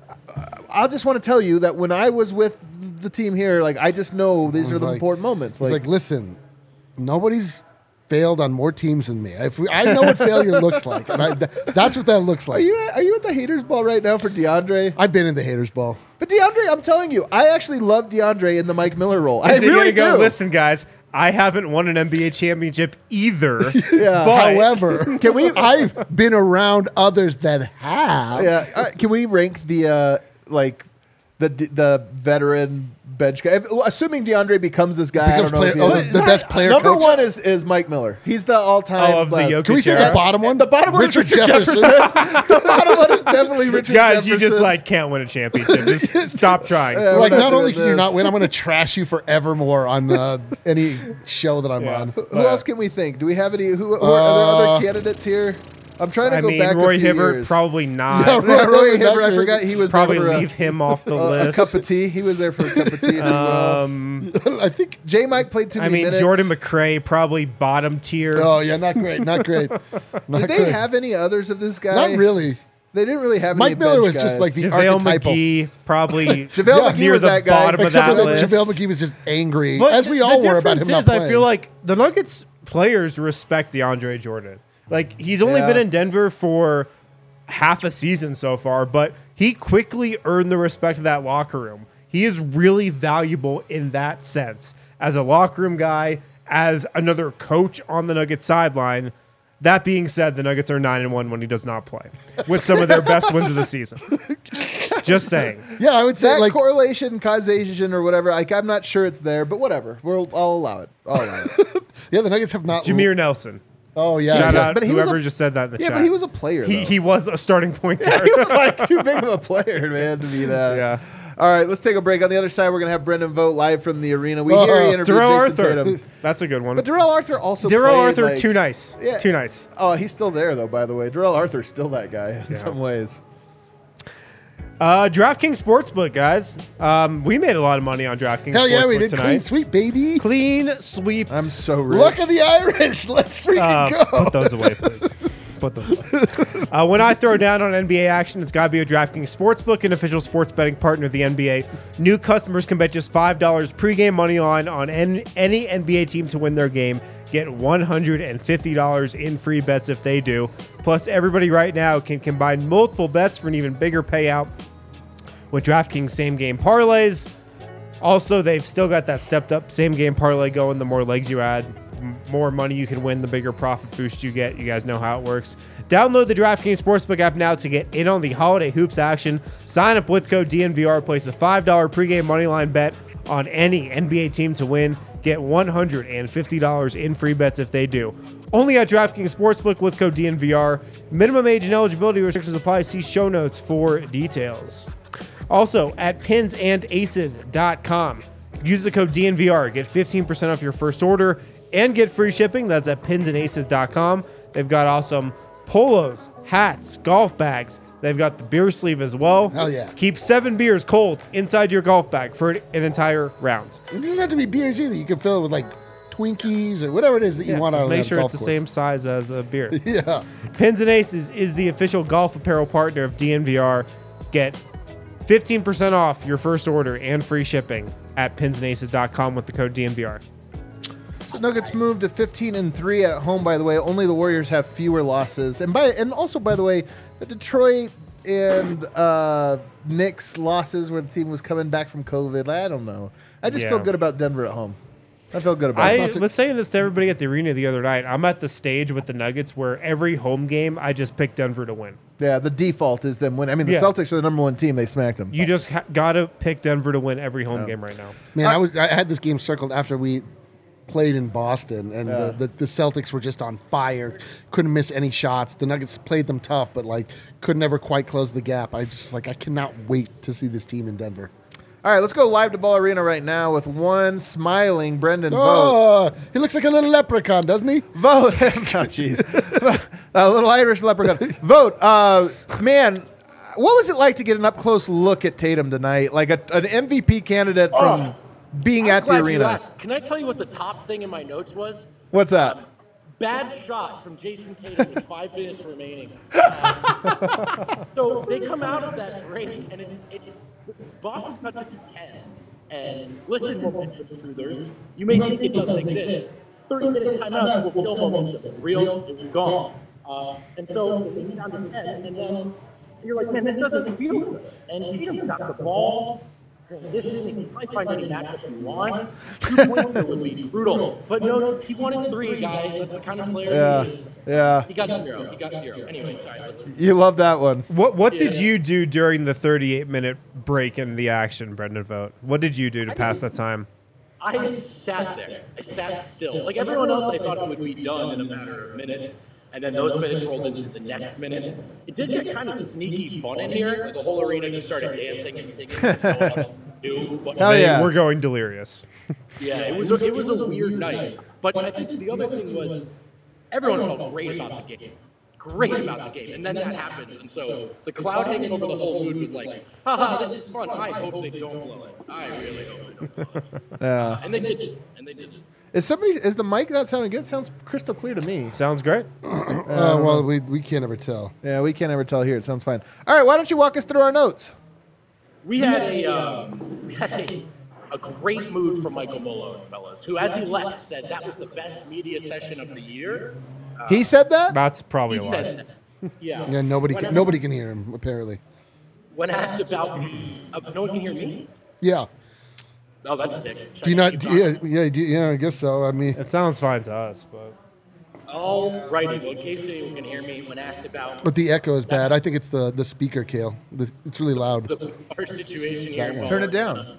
I just want to tell you that when I was with the team here, like I just know these He's are the like- important moments. He's Like, like, listen, nobody's failed on more teams than me. If we, I know what failure looks like, and I, th- that's what that looks are like. you are you at the haters ball right now for DeAndre? I've been in the haters ball. But DeAndre, I'm telling you, I actually love DeAndre in the Mike Miller role. I Is he really gonna go? do. Listen, guys, I haven't won an N B A championship either. Yeah. but However, Can we- I've been around others that have. Yeah, uh, can we rank the uh, like the the veteran bench guy? If, assuming DeAndre becomes this guy, Becomes I don't know. player- if he oh, is. the, the best player. Number coach. one is is Mike Miller. He's the all time. Oh, of the Jokic Can we say era? the bottom one? The bottom one is Richard Richard Jefferson. Jefferson. The bottom one is definitely Richard guys, Jefferson. you just like can't win a championship. Just stop trying. Yeah. We're like, we're not not only doing can you this. not win, I'm going to trash you forevermore on uh, any show that I'm Yeah. on. Who else can we think? Do we have any? Who, who are, are there Uh, other candidates here? I'm trying to I go mean, back. Roy a few Hibbert years. probably not. Yeah, Yeah, Roy Roy Hibbert. I Hibbert. forgot he was Probably there for leave him off the a, a, a list. cup of tea. He was there for a cup of tea. If you will. Um, I think. J. Mike played too I many mean, minutes. Jordan McRae probably bottom tier. Oh yeah, not great, not great. Not Did they great. have any others of this guy? Not really. They didn't really have any Mike Miller bench was just guys. like the JaVale archetypal. McGee probably JaVale Yeah. McGee near was the that guy. bottom of Except that for that list. JaVale McGee was just angry, But as we the all were about him difference not is, playing. I feel like the Nuggets players respect DeAndre Jordan. Like he's only Yeah. been in Denver for half a season so far, but he quickly earned the respect of that locker room. He is really valuable in that sense as a locker room guy, as another coach on the Nuggets sideline. That being said, the Nuggets are nine and one when he does not play, with some of their best wins of the season. Just saying. Yeah, I would say That like correlation, causation, or whatever. Like I'm not sure it's there, but whatever. We'll I'll allow it. I'll allow it. yeah, the Nuggets have not. Jameer Nelson. Oh yeah, Shout yeah. out But he was whoever a- just said that in the Yeah, chat. but he was a player. he, though. he was a starting point guard. he was like too big of a player, man, to be that. Yeah. All right, let's take a break. On the other side, we're gonna have Brendan Vogt live from the arena. We Uh, hear he interviewed Darrell Jason Arthur. Tatum. That's a good one. But Darrell Arthur also. Darrell played, Arthur, like- too nice. Yeah. Too nice. Oh, he's still there though. By the way, Darrell Arthur's still that guy in Yeah. some ways. Uh, DraftKings Sportsbook, guys. Um, we made a lot of money on DraftKings Hell yeah, Sportsbook we did tonight. clean sweep, baby. Clean sweep. I'm so rich. Look at the Irish. Let's freaking Uh, go. put those away, please. Put those away. Uh, when I throw down on N B A action, it's got to be a DraftKings Sportsbook, an official sports betting partner of the N B A. New customers can bet just five dollars pregame money line on any, any N B A team to win their game. Get one hundred fifty dollars in free bets if they do. Plus, everybody right now can combine multiple bets for an even bigger payout with DraftKings same-game parlays. Also, they've still got that stepped-up same-game parlay going. The more legs you add, m- more money you can win, the bigger profit boost you get. You guys know how it works. Download the DraftKings Sportsbook app now to get in on the holiday hoops action. Sign up with code D N V R. Place a five dollars pregame moneyline bet on any N B A team to win. Get one hundred fifty dollars in free bets if they do. Only at DraftKings Sportsbook with code D N V R. Minimum age and eligibility restrictions apply. See show notes for details. Also, at pins and aces dot com, use the code D N V R. Get fifteen percent off your first order and get free shipping. That's at pins and aces dot com. They've got awesome polos, hats, golf bags. They've got the beer sleeve as well. Hell yeah. Keep seven beers cold inside your golf bag for an entire round. It doesn't have to be beers either. You can fill it with like Twinkies or whatever it is that you Yeah, want out just of make that sure golf it's the course. same size as a beer. Yeah. Pins and Aces is the official golf apparel partner of D N V R. Get fifteen percent off your first order and free shipping at pins and aces dot com with the code D N V R. So Nuggets moved to fifteen and three at home. By the way, only the Warriors have fewer losses, and by and also by the way, the Detroit and uh, Knicks losses where the team was coming back from COVID. I don't know. I just Yeah. feel good about Denver at home. I feel good about I it. was saying this to everybody at the arena the other night. I'm at the stage with the Nuggets where every home game I just pick Denver to win. Yeah, the default is them winning. I mean, the Yeah. Celtics are the number one team. They smacked them. You just ha- gotta pick Denver to win every home game right now. Man, I was I had this game circled after we played in Boston, and Yeah. the, the, the Celtics were just on fire. Couldn't miss any shots. The Nuggets played them tough, but like could never quite close the gap. I just like I cannot wait to see this team in Denver. All right, let's go live to Ball Arena right now with one smiling Brendan Vogt. Oh, he looks like a little leprechaun, doesn't he? Vote. Oh, jeez. A little Irish leprechaun. Vote. Uh, man, what was it like to get an up close look at Tatum tonight? Like a, an M V P candidate from Oh, being I'm at the glad you arena. asked. Can I tell you what the top thing in my notes was? What's that? Bad shot from Jason Tatum with five minutes remaining. Uh, so they come out of that break, and it's, it's, it's Boston cuts it to ten. And listen, momentum truthers, you may think it doesn't exist. thirty-minute timeouts will kill momentum. It's real. It was gone. Uh, and so it's down to ten, and then you're like, man, this doesn't feel good. And Tatum's got the ball. Transition, he can probably find any matchup he wants. Two pointer would be brutal. But no, he wanted three, guys. That's the kind of player Yeah. he is. Yeah. He got zero. He got zero. Anyway, sorry. Let's, You love that one. What What did Yeah. you do during the thirty-eight minute break in the action, Brendan Vogt? What did you do to I pass didn't- the time? I sat there. I sat still. Like everyone else, I thought it would be done in a matter of minutes. And then those minutes rolled into the next minutes. It did get kind of sneaky fun in here. Like the whole arena just started dancing and singing. And going up and do what- Hell They yeah. were going delirious. Yeah, it was a, it was a weird night. But I think the other thing was everyone felt great about the game. Great about the game. And then that happened. And so the cloud hanging over the whole mood was like, haha, this is fun. I hope they don't blow it. I really hope they don't blow it. Yeah. And they did. And they did. Is somebody is the mic not sounding good? It sounds crystal clear to me. Sounds great. Uh, well, we, we can't ever tell. Yeah, we can't ever tell here. It sounds fine. All right, why don't you walk us through our notes? We had a um, we had a, a great mood from Michael Malone, fellas, who, as he left, said that was the best media session of the year. He said that? That's probably He a lie. said that. Yeah. Yeah, nobody When can, asked- nobody can hear him apparently. When asked about the, uh, no one can hear me. Yeah. Oh, that's sick. Should Do you I not? keep Do, talking? yeah, yeah, do, yeah. I guess so. I mean, It sounds fine to us, but All righty. Well, in case anyone can hear me, when asked about But the echo is bad. I think it's the, the speaker, Kale. The, it's really loud. the, our situation here, well, Turn it down. uh,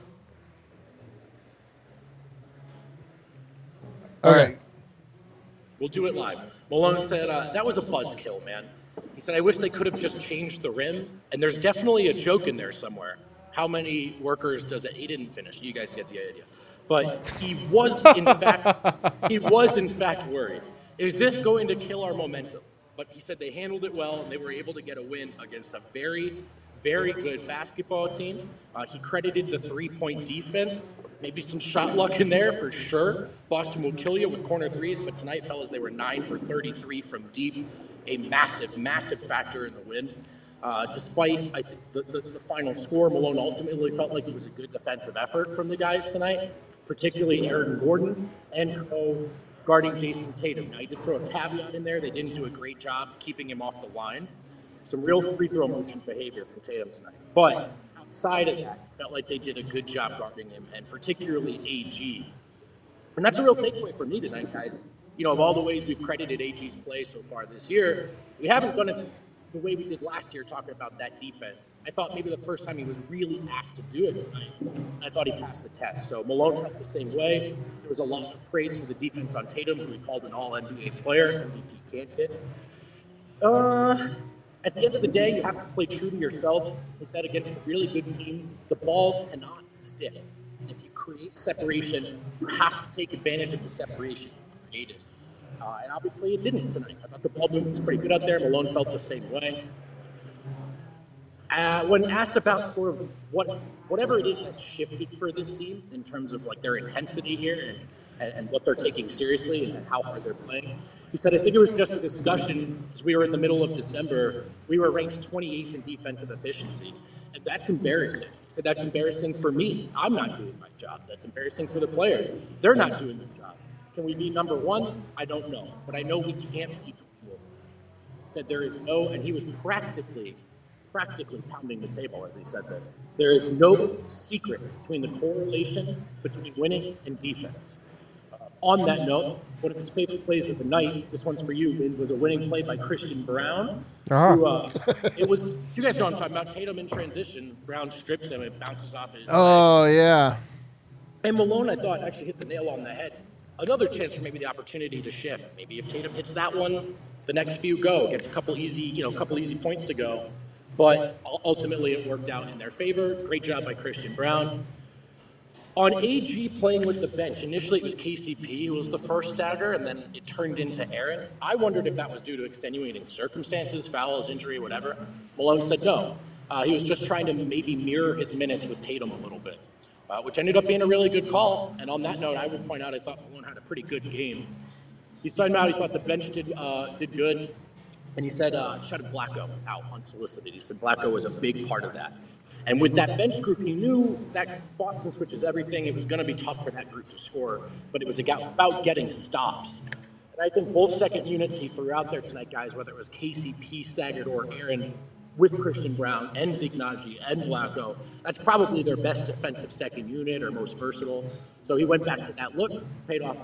All Okay. right. We'll do it live. Malone said, uh, that was a buzzkill, man. He said, I wish they could have just changed the rim. And there's definitely a joke in there somewhere. How many workers does it? He didn't finish. You guys get the idea. But he was, in fact, he was, in fact, worried. Is this going to kill our momentum? But he said they handled it well, and they were able to get a win against a very, very good basketball team. Uh, he credited the three-point defense. Maybe some shot luck in there for sure. Boston will kill you with corner threes, but tonight, fellas, they were nine for thirty-three from deep. A massive, massive factor in the win. Uh, despite, I think, the, the, the final score, Malone ultimately felt like it was a good defensive effort from the guys tonight, particularly Aaron Gordon and Co. guarding Jason Tatum. Now, he did throw a caveat in there. They didn't do a great job keeping him off the line. Some real free throw merchant behavior from Tatum tonight. But outside of that, it felt like they did a good job guarding him, and particularly A G. And that's a real takeaway for me tonight, guys. You know, of all the ways we've credited A G's play so far this year, we haven't done it the way we did last year, talking about that defense. I thought maybe the first time he was really asked to do it tonight, I thought he passed the test. So Malone felt the same way. There was a lot of praise for the defense on Tatum, who we called an all N B A player, M V P candidate. Uh, at the end of the day, you have to play true to yourself. He said against a really good team, the ball cannot stick. If you create separation, you have to take advantage of the separation you created. Uh, and obviously it didn't tonight. I thought the ball movement was pretty good out there. Malone felt the same way. Uh, when asked about sort of what, whatever it is that shifted for this team in terms of like their intensity here and, and, and what they're taking seriously and how hard they're playing, he said, I think it was just a discussion as we were in the middle of December. We were ranked twenty-eighth in defensive efficiency. And that's embarrassing. He said, that's embarrassing for me. I'm not doing my job. That's embarrassing for the players. They're not doing their job. Can we be number one? I don't know. But I know we can't be twelfth. He said there is no, and he was practically, practically pounding the table as he said this. There is no secret between the correlation between winning and defense. Uh, on that note, one of his favorite plays of the night, this one's for you, Vin, was a winning play by Christian Brown. Ah. Who, uh, it was, you guys know what I'm talking about, Tatum in transition. Brown strips him, it bounces off his leg. Oh, yeah. And Malone, I thought, actually hit the nail on the head. Another chance for maybe the opportunity to shift. Maybe if Tatum hits that one, the next few go. Gets a couple easy, you know, a couple easy points to go. But ultimately, it worked out in their favor. Great job by Christian Brown. On A G playing with the bench, initially it was K C P who was the first stagger, and then it turned into Aaron. I wondered if that was due to extenuating circumstances, fouls, injury, whatever. Malone said no. Uh, he was just trying to maybe mirror his minutes with Tatum a little bit. Uh, which ended up being a really good call. And on that note, I would point out I thought Malone had a pretty good game. He started out, he thought the bench did uh, did good. And he said, uh, shutting Vlatko out unsolicited. He said Vlatko was a big part of that. And with that bench group, he knew that Boston switches everything. It was going to be tough for that group to score, but it was about getting stops. And I think both second units he threw out there tonight, guys, whether it was K C P staggered or Aaron, with Christian Brown and Zeke Naji and Vlatko, that's probably their best defensive second unit or most versatile. So he went back to that look, paid off.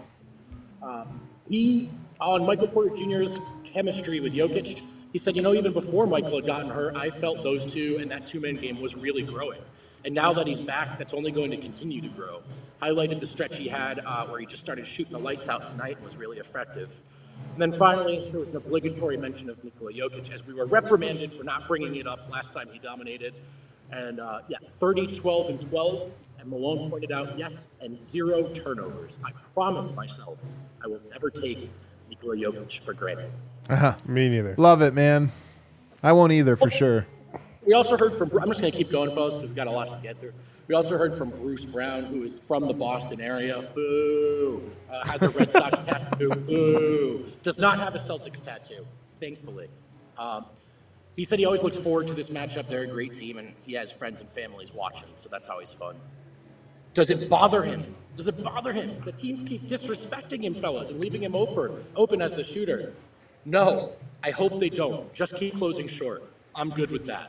Um, he, on Michael Porter Junior's chemistry with Jokic, he said, you know, even before Michael had gotten hurt, I felt those two and that two-man game was really growing. And now that he's back, that's only going to continue to grow. Highlighted the stretch he had uh, where he just started shooting the lights out tonight and was really effective. And then finally, there was an obligatory mention of Nikola Jokic as we were reprimanded for not bringing it up last time he dominated. And uh, yeah, thirty, twelve, and twelve. And Malone pointed out, yes, and zero turnovers. I promise myself I will never take Nikola Jokic for granted. Uh-huh. Me neither. Love it, man. I won't either, for sure. We also heard from, I'm just going to keep going, fellas, because we've got a lot to get through. We also heard from Bruce Brown, who is from the Boston area. Boo. Uh, has a Red Sox tattoo. Boo. Does not have a Celtics tattoo, thankfully. Um, he said he always looks forward to this matchup. They're a great team, and he has friends and families watching, so that's always fun. Does it bother him? Does it bother him? The teams keep disrespecting him, fellas, and leaving him open, open as the shooter. No, I hope they don't. Just keep closing short. I'm good with that.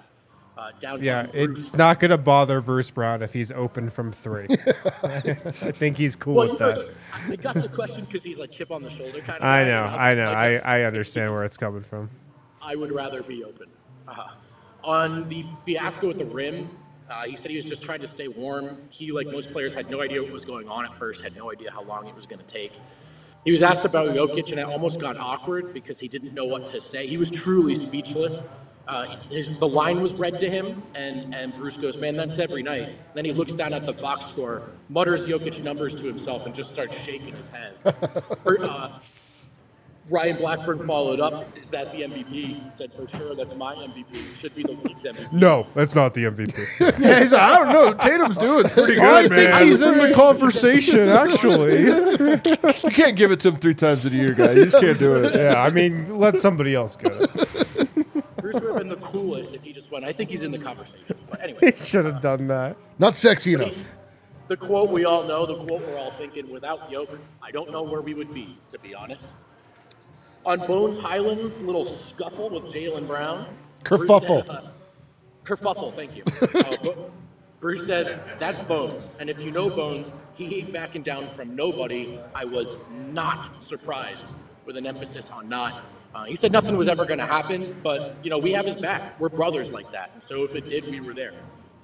uh, downtown. Yeah, Bruce. it's not going to bother Bruce Brown if he's open from three. I think he's cool Well, with you know, that. I got the question because he's like chip on the shoulder kind of. I guy, know, and I know. like, I, I understand where it's coming from. I would rather be open. Uh, on the fiasco at the rim, uh, he said he was just trying to stay warm. He, like most players, had no idea what was going on at first, had no idea how long it was going to take. He was asked about Jokic, and it almost got awkward because he didn't know what to say. He was truly speechless. Uh, his, the line was read to him, and, and Bruce goes, man, that's every night. And then he looks down at the box score, mutters Jokic numbers to himself, and just starts shaking his head. uh, Ryan Blackburn followed up. Is that the M V P? He said, for sure, that's my M V P. It should be the league's M V P. No, that's not the M V P. Yeah, he's like, I don't know. Tatum's doing pretty good, I man. think he's in the conversation, actually. You can't give it to him three times in a year, guy. You just can't do it. Yeah, I mean, let somebody else get it. Bruce would have been the coolest if he just went, I think he's in the conversation. But anyway, He should have done that. Not sexy enough. the quote we all know, the quote we're all thinking, without Yoke, I don't know where we would be, to be honest. On Bones Highland's little scuffle with Jaylen Brown. Bruce Kerfuffle. said, uh, kerfuffle, thank you. Uh, Bo- Bruce said, that's Bones. And if you know Bones, he ain't backing down from nobody. I was not surprised, with an emphasis on not. Uh, he said nothing was ever going to happen, but, you know, we have his back. We're brothers like that. And so if it did, we were there.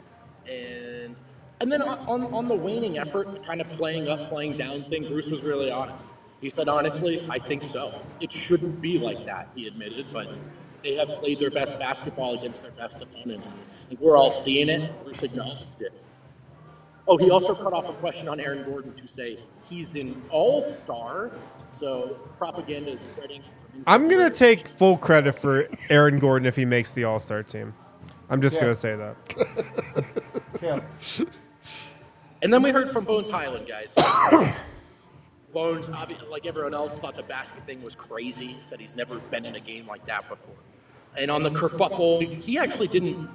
And and then on, on the waning effort, kind of playing up, playing down thing, Bruce was really honest. He said, honestly, I think so. It shouldn't be like that, he admitted, but they have played their best basketball against their best opponents. I think we're all seeing it. Bruce acknowledged it. Oh, he also cut off a question on Aaron Gordon to say he's an all-star, so propaganda is spreading. From inside I'm going the to take full credit for Aaron Gordon if he makes the All-Star team. I'm just Yeah. going to say that. Yeah. And then we heard from Bones Highland, guys. Bones, obvi- like everyone else, thought the basket thing was crazy. He said he's never been in a game like that before. And on the kerfuffle, he actually didn't.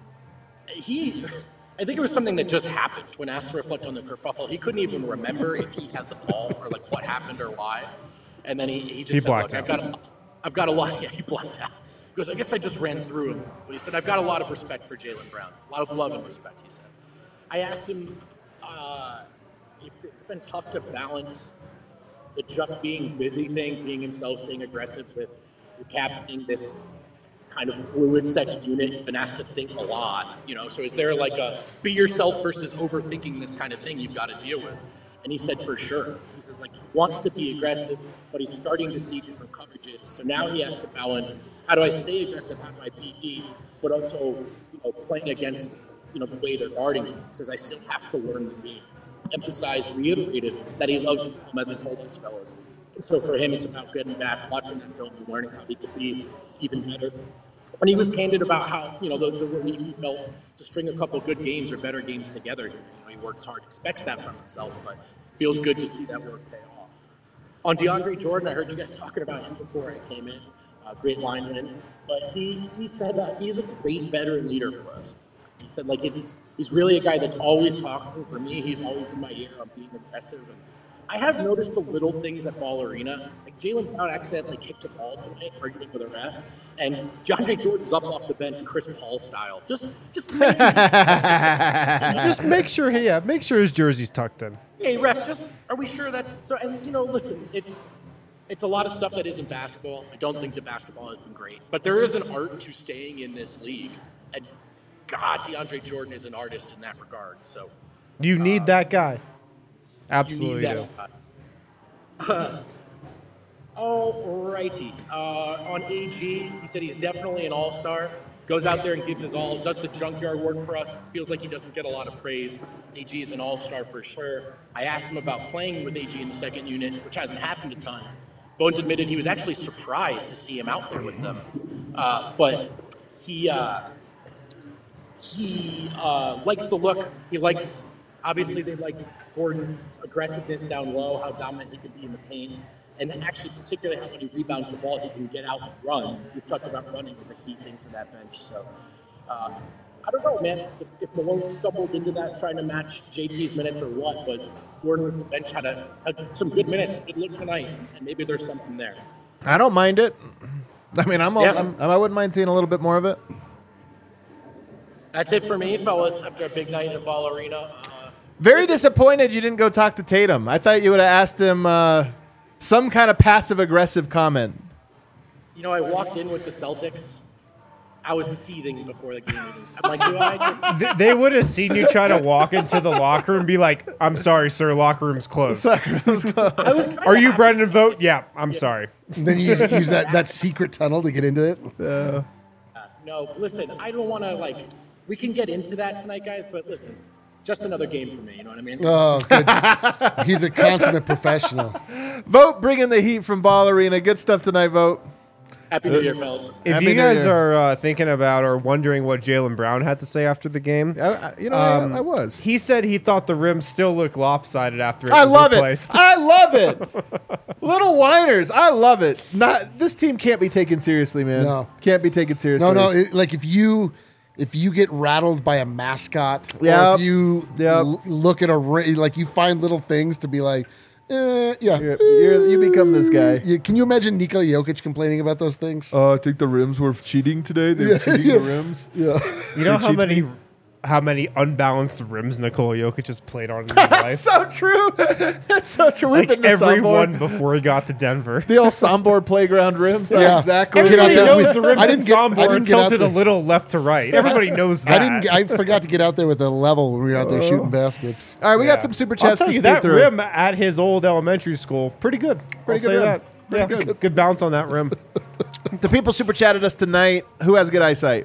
He, I think it was something that just happened when asked to reflect on the kerfuffle. He couldn't even remember if he had the ball or like what happened or why. And then he, he just He said, blacked "Look, I've out. got, a, I've got a lot." Yeah, he blacked out. He goes, "I guess I just ran through him." But he said, "I've got a lot of respect for Jaylen Brown, a lot of love and respect." He said. I asked him uh, if it's been tough to balance the just being busy thing, being himself, staying aggressive with captaining this kind of fluid second unit. You've been asked to think a lot, you know. So is there like a be yourself versus overthinking this kind of thing you've got to deal with? And he said for sure. He says like he wants to be aggressive, but he's starting to see different coverages. So now he has to balance how do I stay aggressive, how do I be E, but also you know playing against you know the way they're guarding me. He says I still have to learn the game. Emphasized, reiterated that he loves film as he told his fellas. And so for him, it's about getting back, watching that film, and learning how he could be even better. And he was candid about how, you know, the, the relief he felt to string a couple good games or better games together here. You know, he works hard, expects that from himself, but feels good to see that work pay off. On DeAndre Jordan, I heard you guys talking about him before I came in. Uh, great lineman. But he, he said that he is a great veteran leader for us. He said, like, it's he's really a guy that's always talking. For me, he's always in my ear on being aggressive. And I have noticed the little things at Ball Arena. Like, Jaylen Brown accidentally kicked a ball tonight, arguing with a ref. And DeAndre Jordan's up off the bench, Chris Paul style. Just, just, Just make sure, he, yeah, make sure his jersey's tucked in. hey, ref, just, are we sure that's so? And, you know, listen, it's, it's a lot of stuff that isn't basketball. I don't think the basketball has been great. But there is an art to staying in this league. And God, DeAndre Jordan is an artist in that regard. So You need that guy. you Absolutely need do. that. Uh, Alrighty. Uh, on A G, he said he's definitely an all-star. Goes out there and gives his all. Does the junkyard work for us. Feels like he doesn't get a lot of praise. A G is an all-star for sure. I asked him about playing with A G in the second unit, which hasn't happened a ton. Bones admitted he was actually surprised to see him out there with them. Uh, but he... Uh, He uh, likes the look. He likes, obviously, they like Gordon's aggressiveness down low, how dominant he can be in the paint, and then actually, particularly how when he rebounds the ball, he can get out and run. We've talked about running as a key thing for that bench. So, uh, I don't know, man, if, if Malone stumbled into that trying to match J T's minutes or what, but Gordon with the bench had, a, had some good minutes, good look tonight, and maybe there's something there. I don't mind it. I mean, I'm, all, Yeah. I'm I wouldn't mind seeing a little bit more of it. That's it for me, fellas, after a big night in Ball Arena. Uh, Very disappointed you didn't go talk to Tatum. I thought you would have asked him uh, some kind of passive-aggressive comment. you know, I walked in with the Celtics. I was seething before the game meetings. I'm like, do I? Th- they would have seen you try to walk into the locker room and be like, I'm sorry, sir, locker room's closed. I was kinda Are you happy. Brendan Vogt? Yeah, I'm sorry. And then you use, use that, that secret tunnel to get into it. Uh, No, listen, I don't want to, like, we can get into that tonight, guys, but listen, just another game for me, you know what I mean? Oh, good. He's a consummate professional. Vote bringing the heat from Ball Arena. Good stuff tonight, Vote. Happy New Year, fellas. If Happy you New guys Year. are uh, thinking about or wondering what Jaylen Brown had to say after the game, I, I, you know, um, I, I was. he said he thought the rim still looked lopsided after it I was love replaced. it. I love it. Little whiners. I love it. Not this team can't be taken seriously, man. No. Can't be taken seriously. No, no. It, like if you if you get rattled by a mascot, or Yep. if you Yep. l- look at a ra- like you find little things to be like, eh, yeah. You're, you're, you become this guy. You- can you imagine Nikola Jokic complaining about those things? Uh, I think the rims were cheating today. They were cheating the rims. Yeah. You know how cheap many how many unbalanced rims Nikola Jokic has played on in his life? So true. That's so true. We've Like been to every Sombor. one before he got to Denver. The old Sombor playground rims. That's Yeah. exactly. Get out Everybody there knows with- the rims I in didn't get- I Sombor didn't are get out tilted a there. little left to right. Everybody knows that. I didn't. get- I forgot to get out there with a level when we were out there shooting baskets. All right, we Yeah. got some super I'll chats tell to you speed that through. rim at his old elementary school, pretty good. Pretty I'll good say rim. that. Pretty yeah, good. good bounce on that rim. The people super chatted us tonight. Who has good eyesight?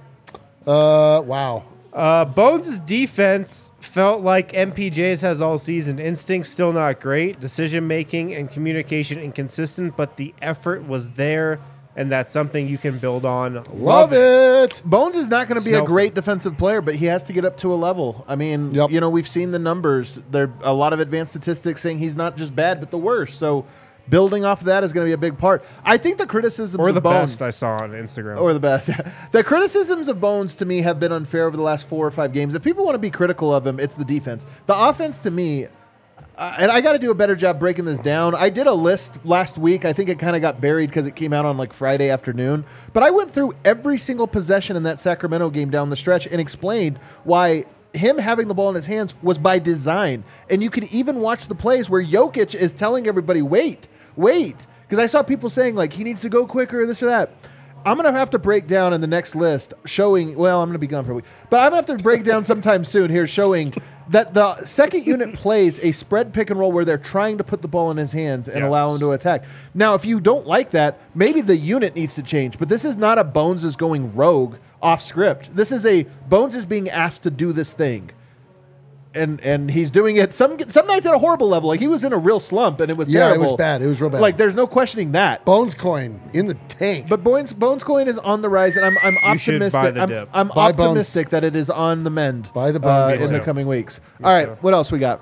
Uh, wow. Uh, Bones' defense felt like M P J's has all season. Instincts still not great. Decision making and communication inconsistent, but the effort was there, and that's something you can build on. Love it. Bones is not going to be a Snelson. great defensive player, but he has to get up to a level. I mean, Yep. you know, we've seen the numbers. There are a lot of advanced statistics saying he's not just bad, but the worst. So building off of that is going to be a big part. I think the criticisms Or of the Bones, best I saw on Instagram. or the best. The criticisms of Bones to me have been unfair over the last four or five games. If people want to be critical of him, it's the defense. The offense to me, uh, and I got to do a better job breaking this down. I did a list last week. I think it kind of got buried because it came out on like Friday afternoon. But I went through every single possession in that Sacramento game down the stretch and explained why him having the ball in his hands was by design. And you can even watch the plays where Jokic is telling everybody, wait, wait. Because I saw people saying like he needs to go quicker, this or that. I'm going to have to break down in the next list showing, well, I'm going to be gone for a week, but I'm going to have to break down sometime soon here showing that the second unit plays a spread pick and roll where they're trying to put the ball in his hands and Yes. allow him to attack. Now, if you don't like that, maybe the unit needs to change, but this is not a Bones is going rogue off script. This is a Bones is being asked to do this thing. And and he's doing it some some nights at a horrible level. Like he was in a real slump and it was Yeah, it terrible. was bad. It was real bad. Like there's no questioning that. Bones coin in the tank. But Bones Bones Coin is on the rise, and I'm I'm You should optimistic. buy the I'm, dip. I'm Buy Bones. optimistic that it is on the mend. Buy the uh, Bones in coin. the coming weeks. All right, too. what else we got?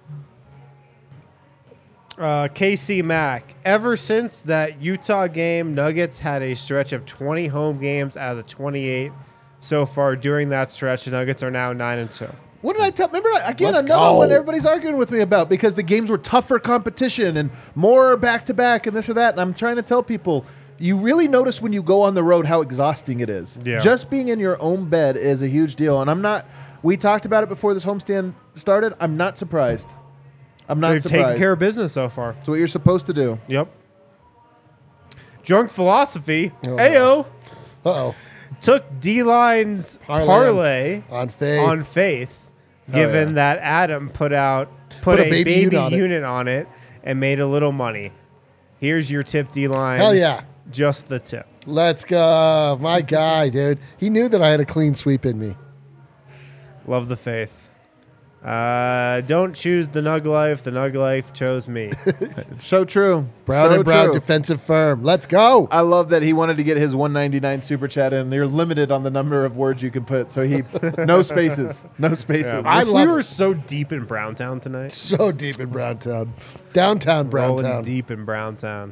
Uh, K C Mack. Ever since that Utah game, Nuggets had a stretch of twenty home games out of the twenty-eight so far. During that stretch, the Nuggets are now nine and two. What did I tell? Remember again Let's another go. one everybody's arguing with me about because the games were tougher competition and more back to back and this or that. And I'm trying to tell people. You really notice when you go on the road how exhausting it is. Yeah. Just being in your own bed is a huge deal. And I'm not, we talked about it before this homestand started. I'm not surprised. I'm not They've surprised. taken care of business so far. It's what you're supposed to do. Yep. Drunk Philosophy, Oh, Ayo, Uh-oh. took D-Line's Parlay. parlay On faith. on faith, given yeah. that Adam put out put, Put a a, baby baby, unit on it. unit on it and made a little money. Here's your tip, D-Line. Hell yeah. Just the tip. Let's go. My guy, dude. He knew that I had a clean sweep in me. Love the faith. Uh, don't choose the Nug Life. The Nug Life chose me. So true. Brown so and Brown true. defensive firm. Let's go. I love that he wanted to get his one ninety-nine super chat in. You're limited on the number of words you can put, so he no spaces, no spaces. I we love were it. so deep in Browntown tonight. So deep in Browntown. Downtown Rolling Browntown. deep in Browntown.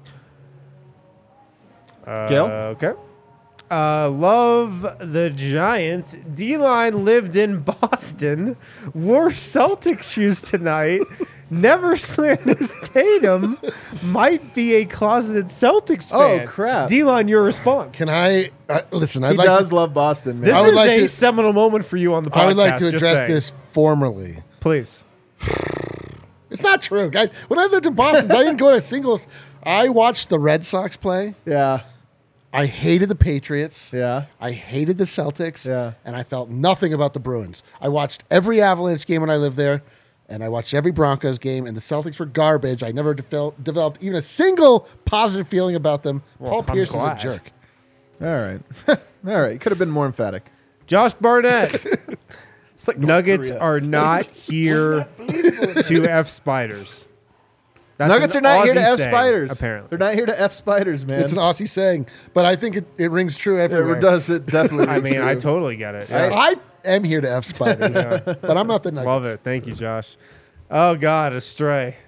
Uh, Gil? Okay. Uh, love the Giants. D-Line lived in Boston, wore Celtics shoes tonight, never slanders Tatum might be a closeted Celtics Oh, fan. crap. Delon, your response. Can I uh, listen? I'd He like does to, love Boston, man. This I would is like a to- seminal moment for you on the podcast. I would like to just address saying. this formally. Please. It's not true, guys. When I lived in Boston, I didn't go to singles. I watched the Red Sox play. yeah, I hated the Patriots. yeah. I hated the Celtics. Yeah. And I felt nothing about the Bruins. I watched every Avalanche game when I lived there, and I watched every Broncos game, and the Celtics were garbage. I never devel- developed even a single positive feeling about them. Well, Paul I'm Pierce is a glad. jerk. All right, all right. Could have been more emphatic. Josh Barnett. It's like North Nuggets Korea. are not here to F spiders. That's Nuggets an are not here to Aussie F saying, spiders. Apparently. they're not here to F spiders, man. It's an Aussie saying, but I think it, it rings true everywhere. It does. It definitely. I is mean, I true. totally get it. Yeah. I am here to F spiders, but I'm not the Nuggets. Love it. Thank you, Josh. Oh, God, a stray.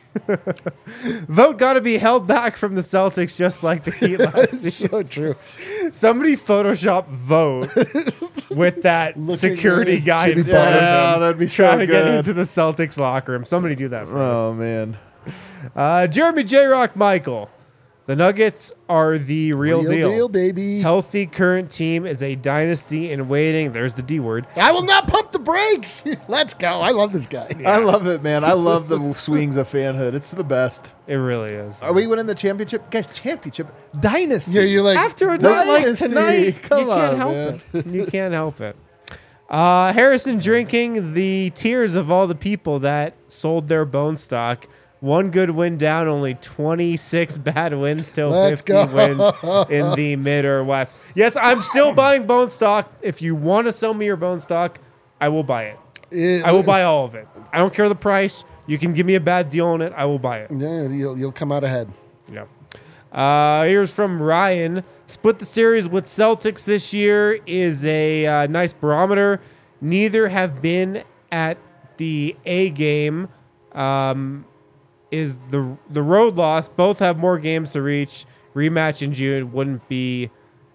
Vote got to be held back from the Celtics just like the Heat last It's season. so true. Somebody Photoshop vote with that Looking security at guy in Jimmy front of Yeah, him that'd be so trying to get good. into the Celtics locker room. Somebody do that for Oh us. man. Uh, Jeremy J. Rock Michael. The Nuggets are the real, Real deal. deal, baby. Healthy current team is a dynasty in waiting. There's the D word. I will not pump the brakes. Let's go. I love this guy. I love it, man. I love the swings of fanhood. It's the best. It really is. Are we winning the championship, guys? Championship dynasty. Yeah, you're like After a night like Dynasty. tonight, Come you can't on, help man. it. You can't help it. Uh, Harrison drinking the tears of all the people that sold their bone stock. One good win down, only twenty-six bad wins till Let's fifty go. wins in the mid or west. Yes, I'm still buying bone stock. If you want to sell me your bone stock, I will buy it. It- I will buy all of it. I don't care the price. You can give me a bad deal on it. I will buy it. Yeah, you'll, you'll come out ahead. Yeah. Uh, here's from Ryan. Split the series with Celtics this year is a uh, nice barometer. Neither have been at the A game. Um, is the the road loss. Both have more games to reach. Rematch in June wouldn't be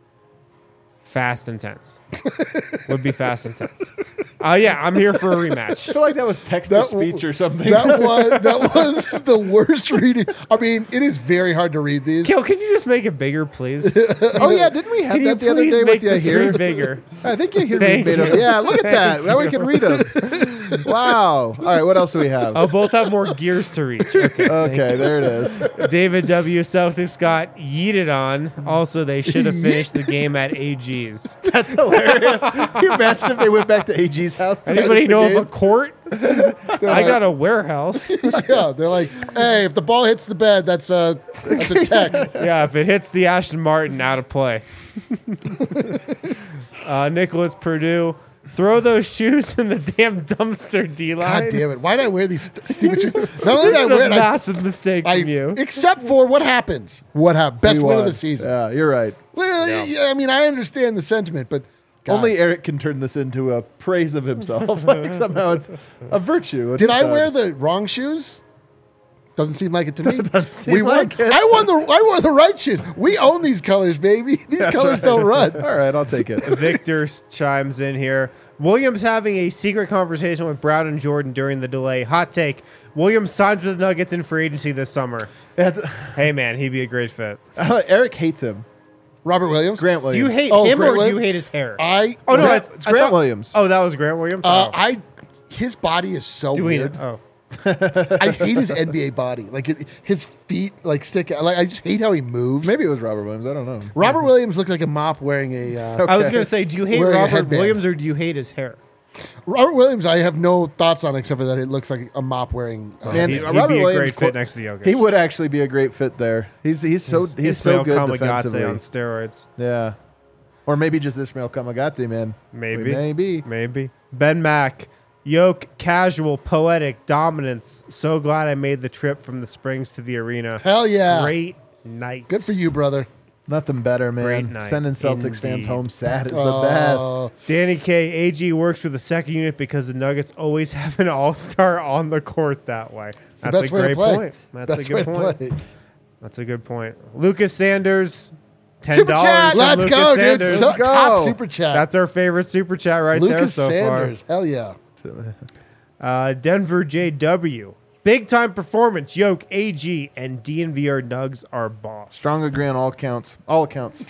fast and tense. Would be fast and tense. Uh, yeah, I'm here for a I rematch. feel like that was text to That- speech or something. That was that was the worst reading. I mean, it is very hard to read these. Kill, can you just make it bigger, please? oh yeah, didn't we have Can you that the other please day make with you the here? screen bigger? I think you hear Thank me. you. Yeah, look at that. Now we can read them. Wow. All right, what else do we have? Oh, both have more gears to reach. Okay. Okay, there it is. David W. Celtics got yeeted on. Also, they should have finished the game at A G's. That's hilarious. Can you imagine if they went back to A G's house? to Anybody finish the know game? of a court? I got a warehouse. Yeah, they're like, hey, if the ball hits the bed, that's a that's a tech. Yeah, if it hits the Ashton Martin, out of play. uh, Nicholas Purdue. Throw those shoes in the damn dumpster, D-line. God damn it! Why did I wear these st- stupid shoes? Not only did This I is wear a it, I, massive mistake I from you. except for what happens. What happened? Best We win of won. the season. Yeah, you're right. Well, yeah, I mean, I understand the sentiment, but God. Only Eric can turn this into a praise of himself. Like somehow it's a virtue. Did I wear the wrong shoes? Doesn't seem like it to me. seem we won. like it. I won the. I wore the right shoes. We own these colors, baby. These That's colors right. don't run. All right, I'll take it. Victor s- chimes in here. Williams having a secret conversation with Brown and Jordan during the delay. Hot take. Williams signs with the Nuggets in free agency this summer. Hey, man, he'd be a great fit. Eric hates him. Robert Williams. Grant Do Williams. you hate Oh, him Grant or do you Williams? hate his hair? I. oh, no. Grant- I, it's I Grant thought- Williams. Oh, that was Grant Williams? Uh, oh. I. His body is so do we weird. Oh. I hate his N B A body. Like it, his feet, like stick. out. Like I just hate how he moves. Maybe it was Robert Williams. I don't know. Robert Williams looked like a mop wearing a. Uh, I was Okay. going to say, do you hate Wearing a Robert headband. Williams or do you hate his hair? Robert Williams, I have no thoughts on except for that it looks like a mop wearing. Uh, Man, He'd, he'd Robert be a Williams great qu- fit next to Jokic. He would actually be a great fit there. He's he's so he's, so Ismail good Kamagate defensively. on steroids. Yeah, or maybe just Ismail Kamagate, man. Maybe. maybe. Maybe. Ben Mack. Yoke, casual, poetic, dominance. So glad I made the trip from the Springs to the arena. Hell yeah! Great night. Good for you, brother. Nothing better, Great man. night, Sending Celtics fans indeed. home sad is the Uh, Danny K. A G works with the second unit because the Nuggets always have an all-star on the court that way. the That's best a way to great play. point. That's Best a good way to point. play. That's a good point. Lucas Sanders, ten Super dollars. chat! from Let's Lucas go, dude. Sanders. So, Let's go. top super chat. That's our favorite super chat right there Lucas so Sanders. far. Hell yeah. Uh, Denver J W. Big time performance. Yoke, A G, and D N V R Nugs are boss. Strong agree on all counts. All accounts.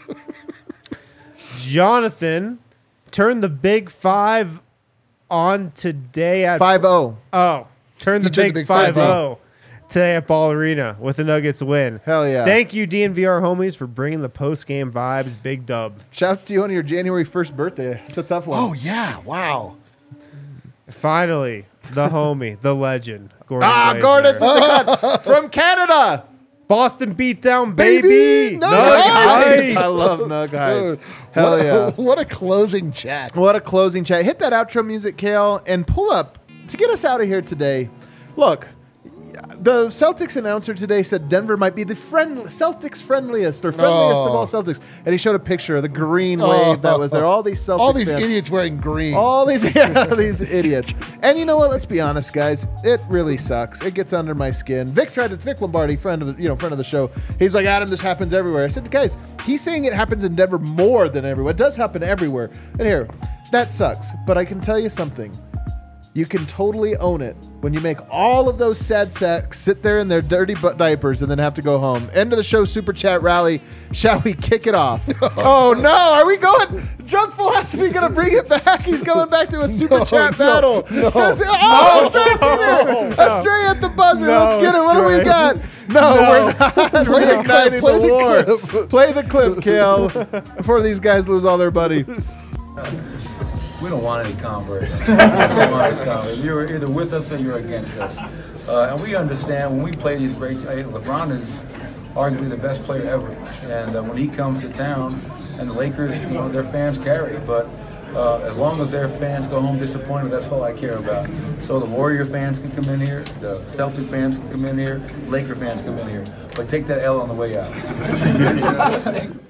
Jonathan turned the big five on today at five oh. Oh, turned the You turned big, the big five five oh today at Ball Arena with the Nuggets win. Hell yeah. Thank you, D N V R homies, for bringing the post game vibes. Big dub. Shouts to you on your January first birthday. It's a tough one. Oh yeah! Wow. Finally, the homie, the legend, Gordon. ah, Glazner. Gordon's in the cut from Canada. Boston beatdown, baby. Baby, Nug Nug hype. I love Nug Hype. Dude, Hell what, yeah. What a closing chat. What a closing chat. Hit that outro music, Kale, and pull up to get us out of here today. Look, the Celtics announcer today said Denver might be the friend, Celtics friendliest or friendliest Oh. of all Celtics. And he showed a picture of the green Oh. wave that was there. All these Celtics All these fans. idiots wearing green. All these, yeah, these idiots. And you know what? Let's be honest, guys. It really sucks. It gets under my skin. Vic tried to, Vic Lombardi, friend of the, you know, friend of the show. He's like, Adam, this happens everywhere. I said, guys, he's saying it happens in Denver more than everywhere. It does happen everywhere. And here, that sucks. But I can tell you something. You can totally own it when you make all of those sad sacks sit there in their dirty butt diapers and then have to go home. End of the show, super chat rally. Shall we kick it off? Oh no, are we going? Drunk philosophy gonna bring it back. He's going back to a super No, chat no, battle. no. oh, Astray's in there. Astray at the buzzer. No, Let's get it. What do we Astray. got? No, No. we're not. Play We're the igniting clip, play the, the war. clip. Play the clip, Kale, before these guys lose all their buddy. We don't want any converts. we don't want any converts. You're either with us or you're against us. Uh, and we understand when we play these great, hey, LeBron is arguably the best player ever. And uh, when he comes to town, and the Lakers, you know, their fans carry. But uh, as long as their fans go home disappointed, that's all I care about. So the Warrior fans can come in here, the Celtic fans can come in here, Laker fans come in here. But take that L on the way out.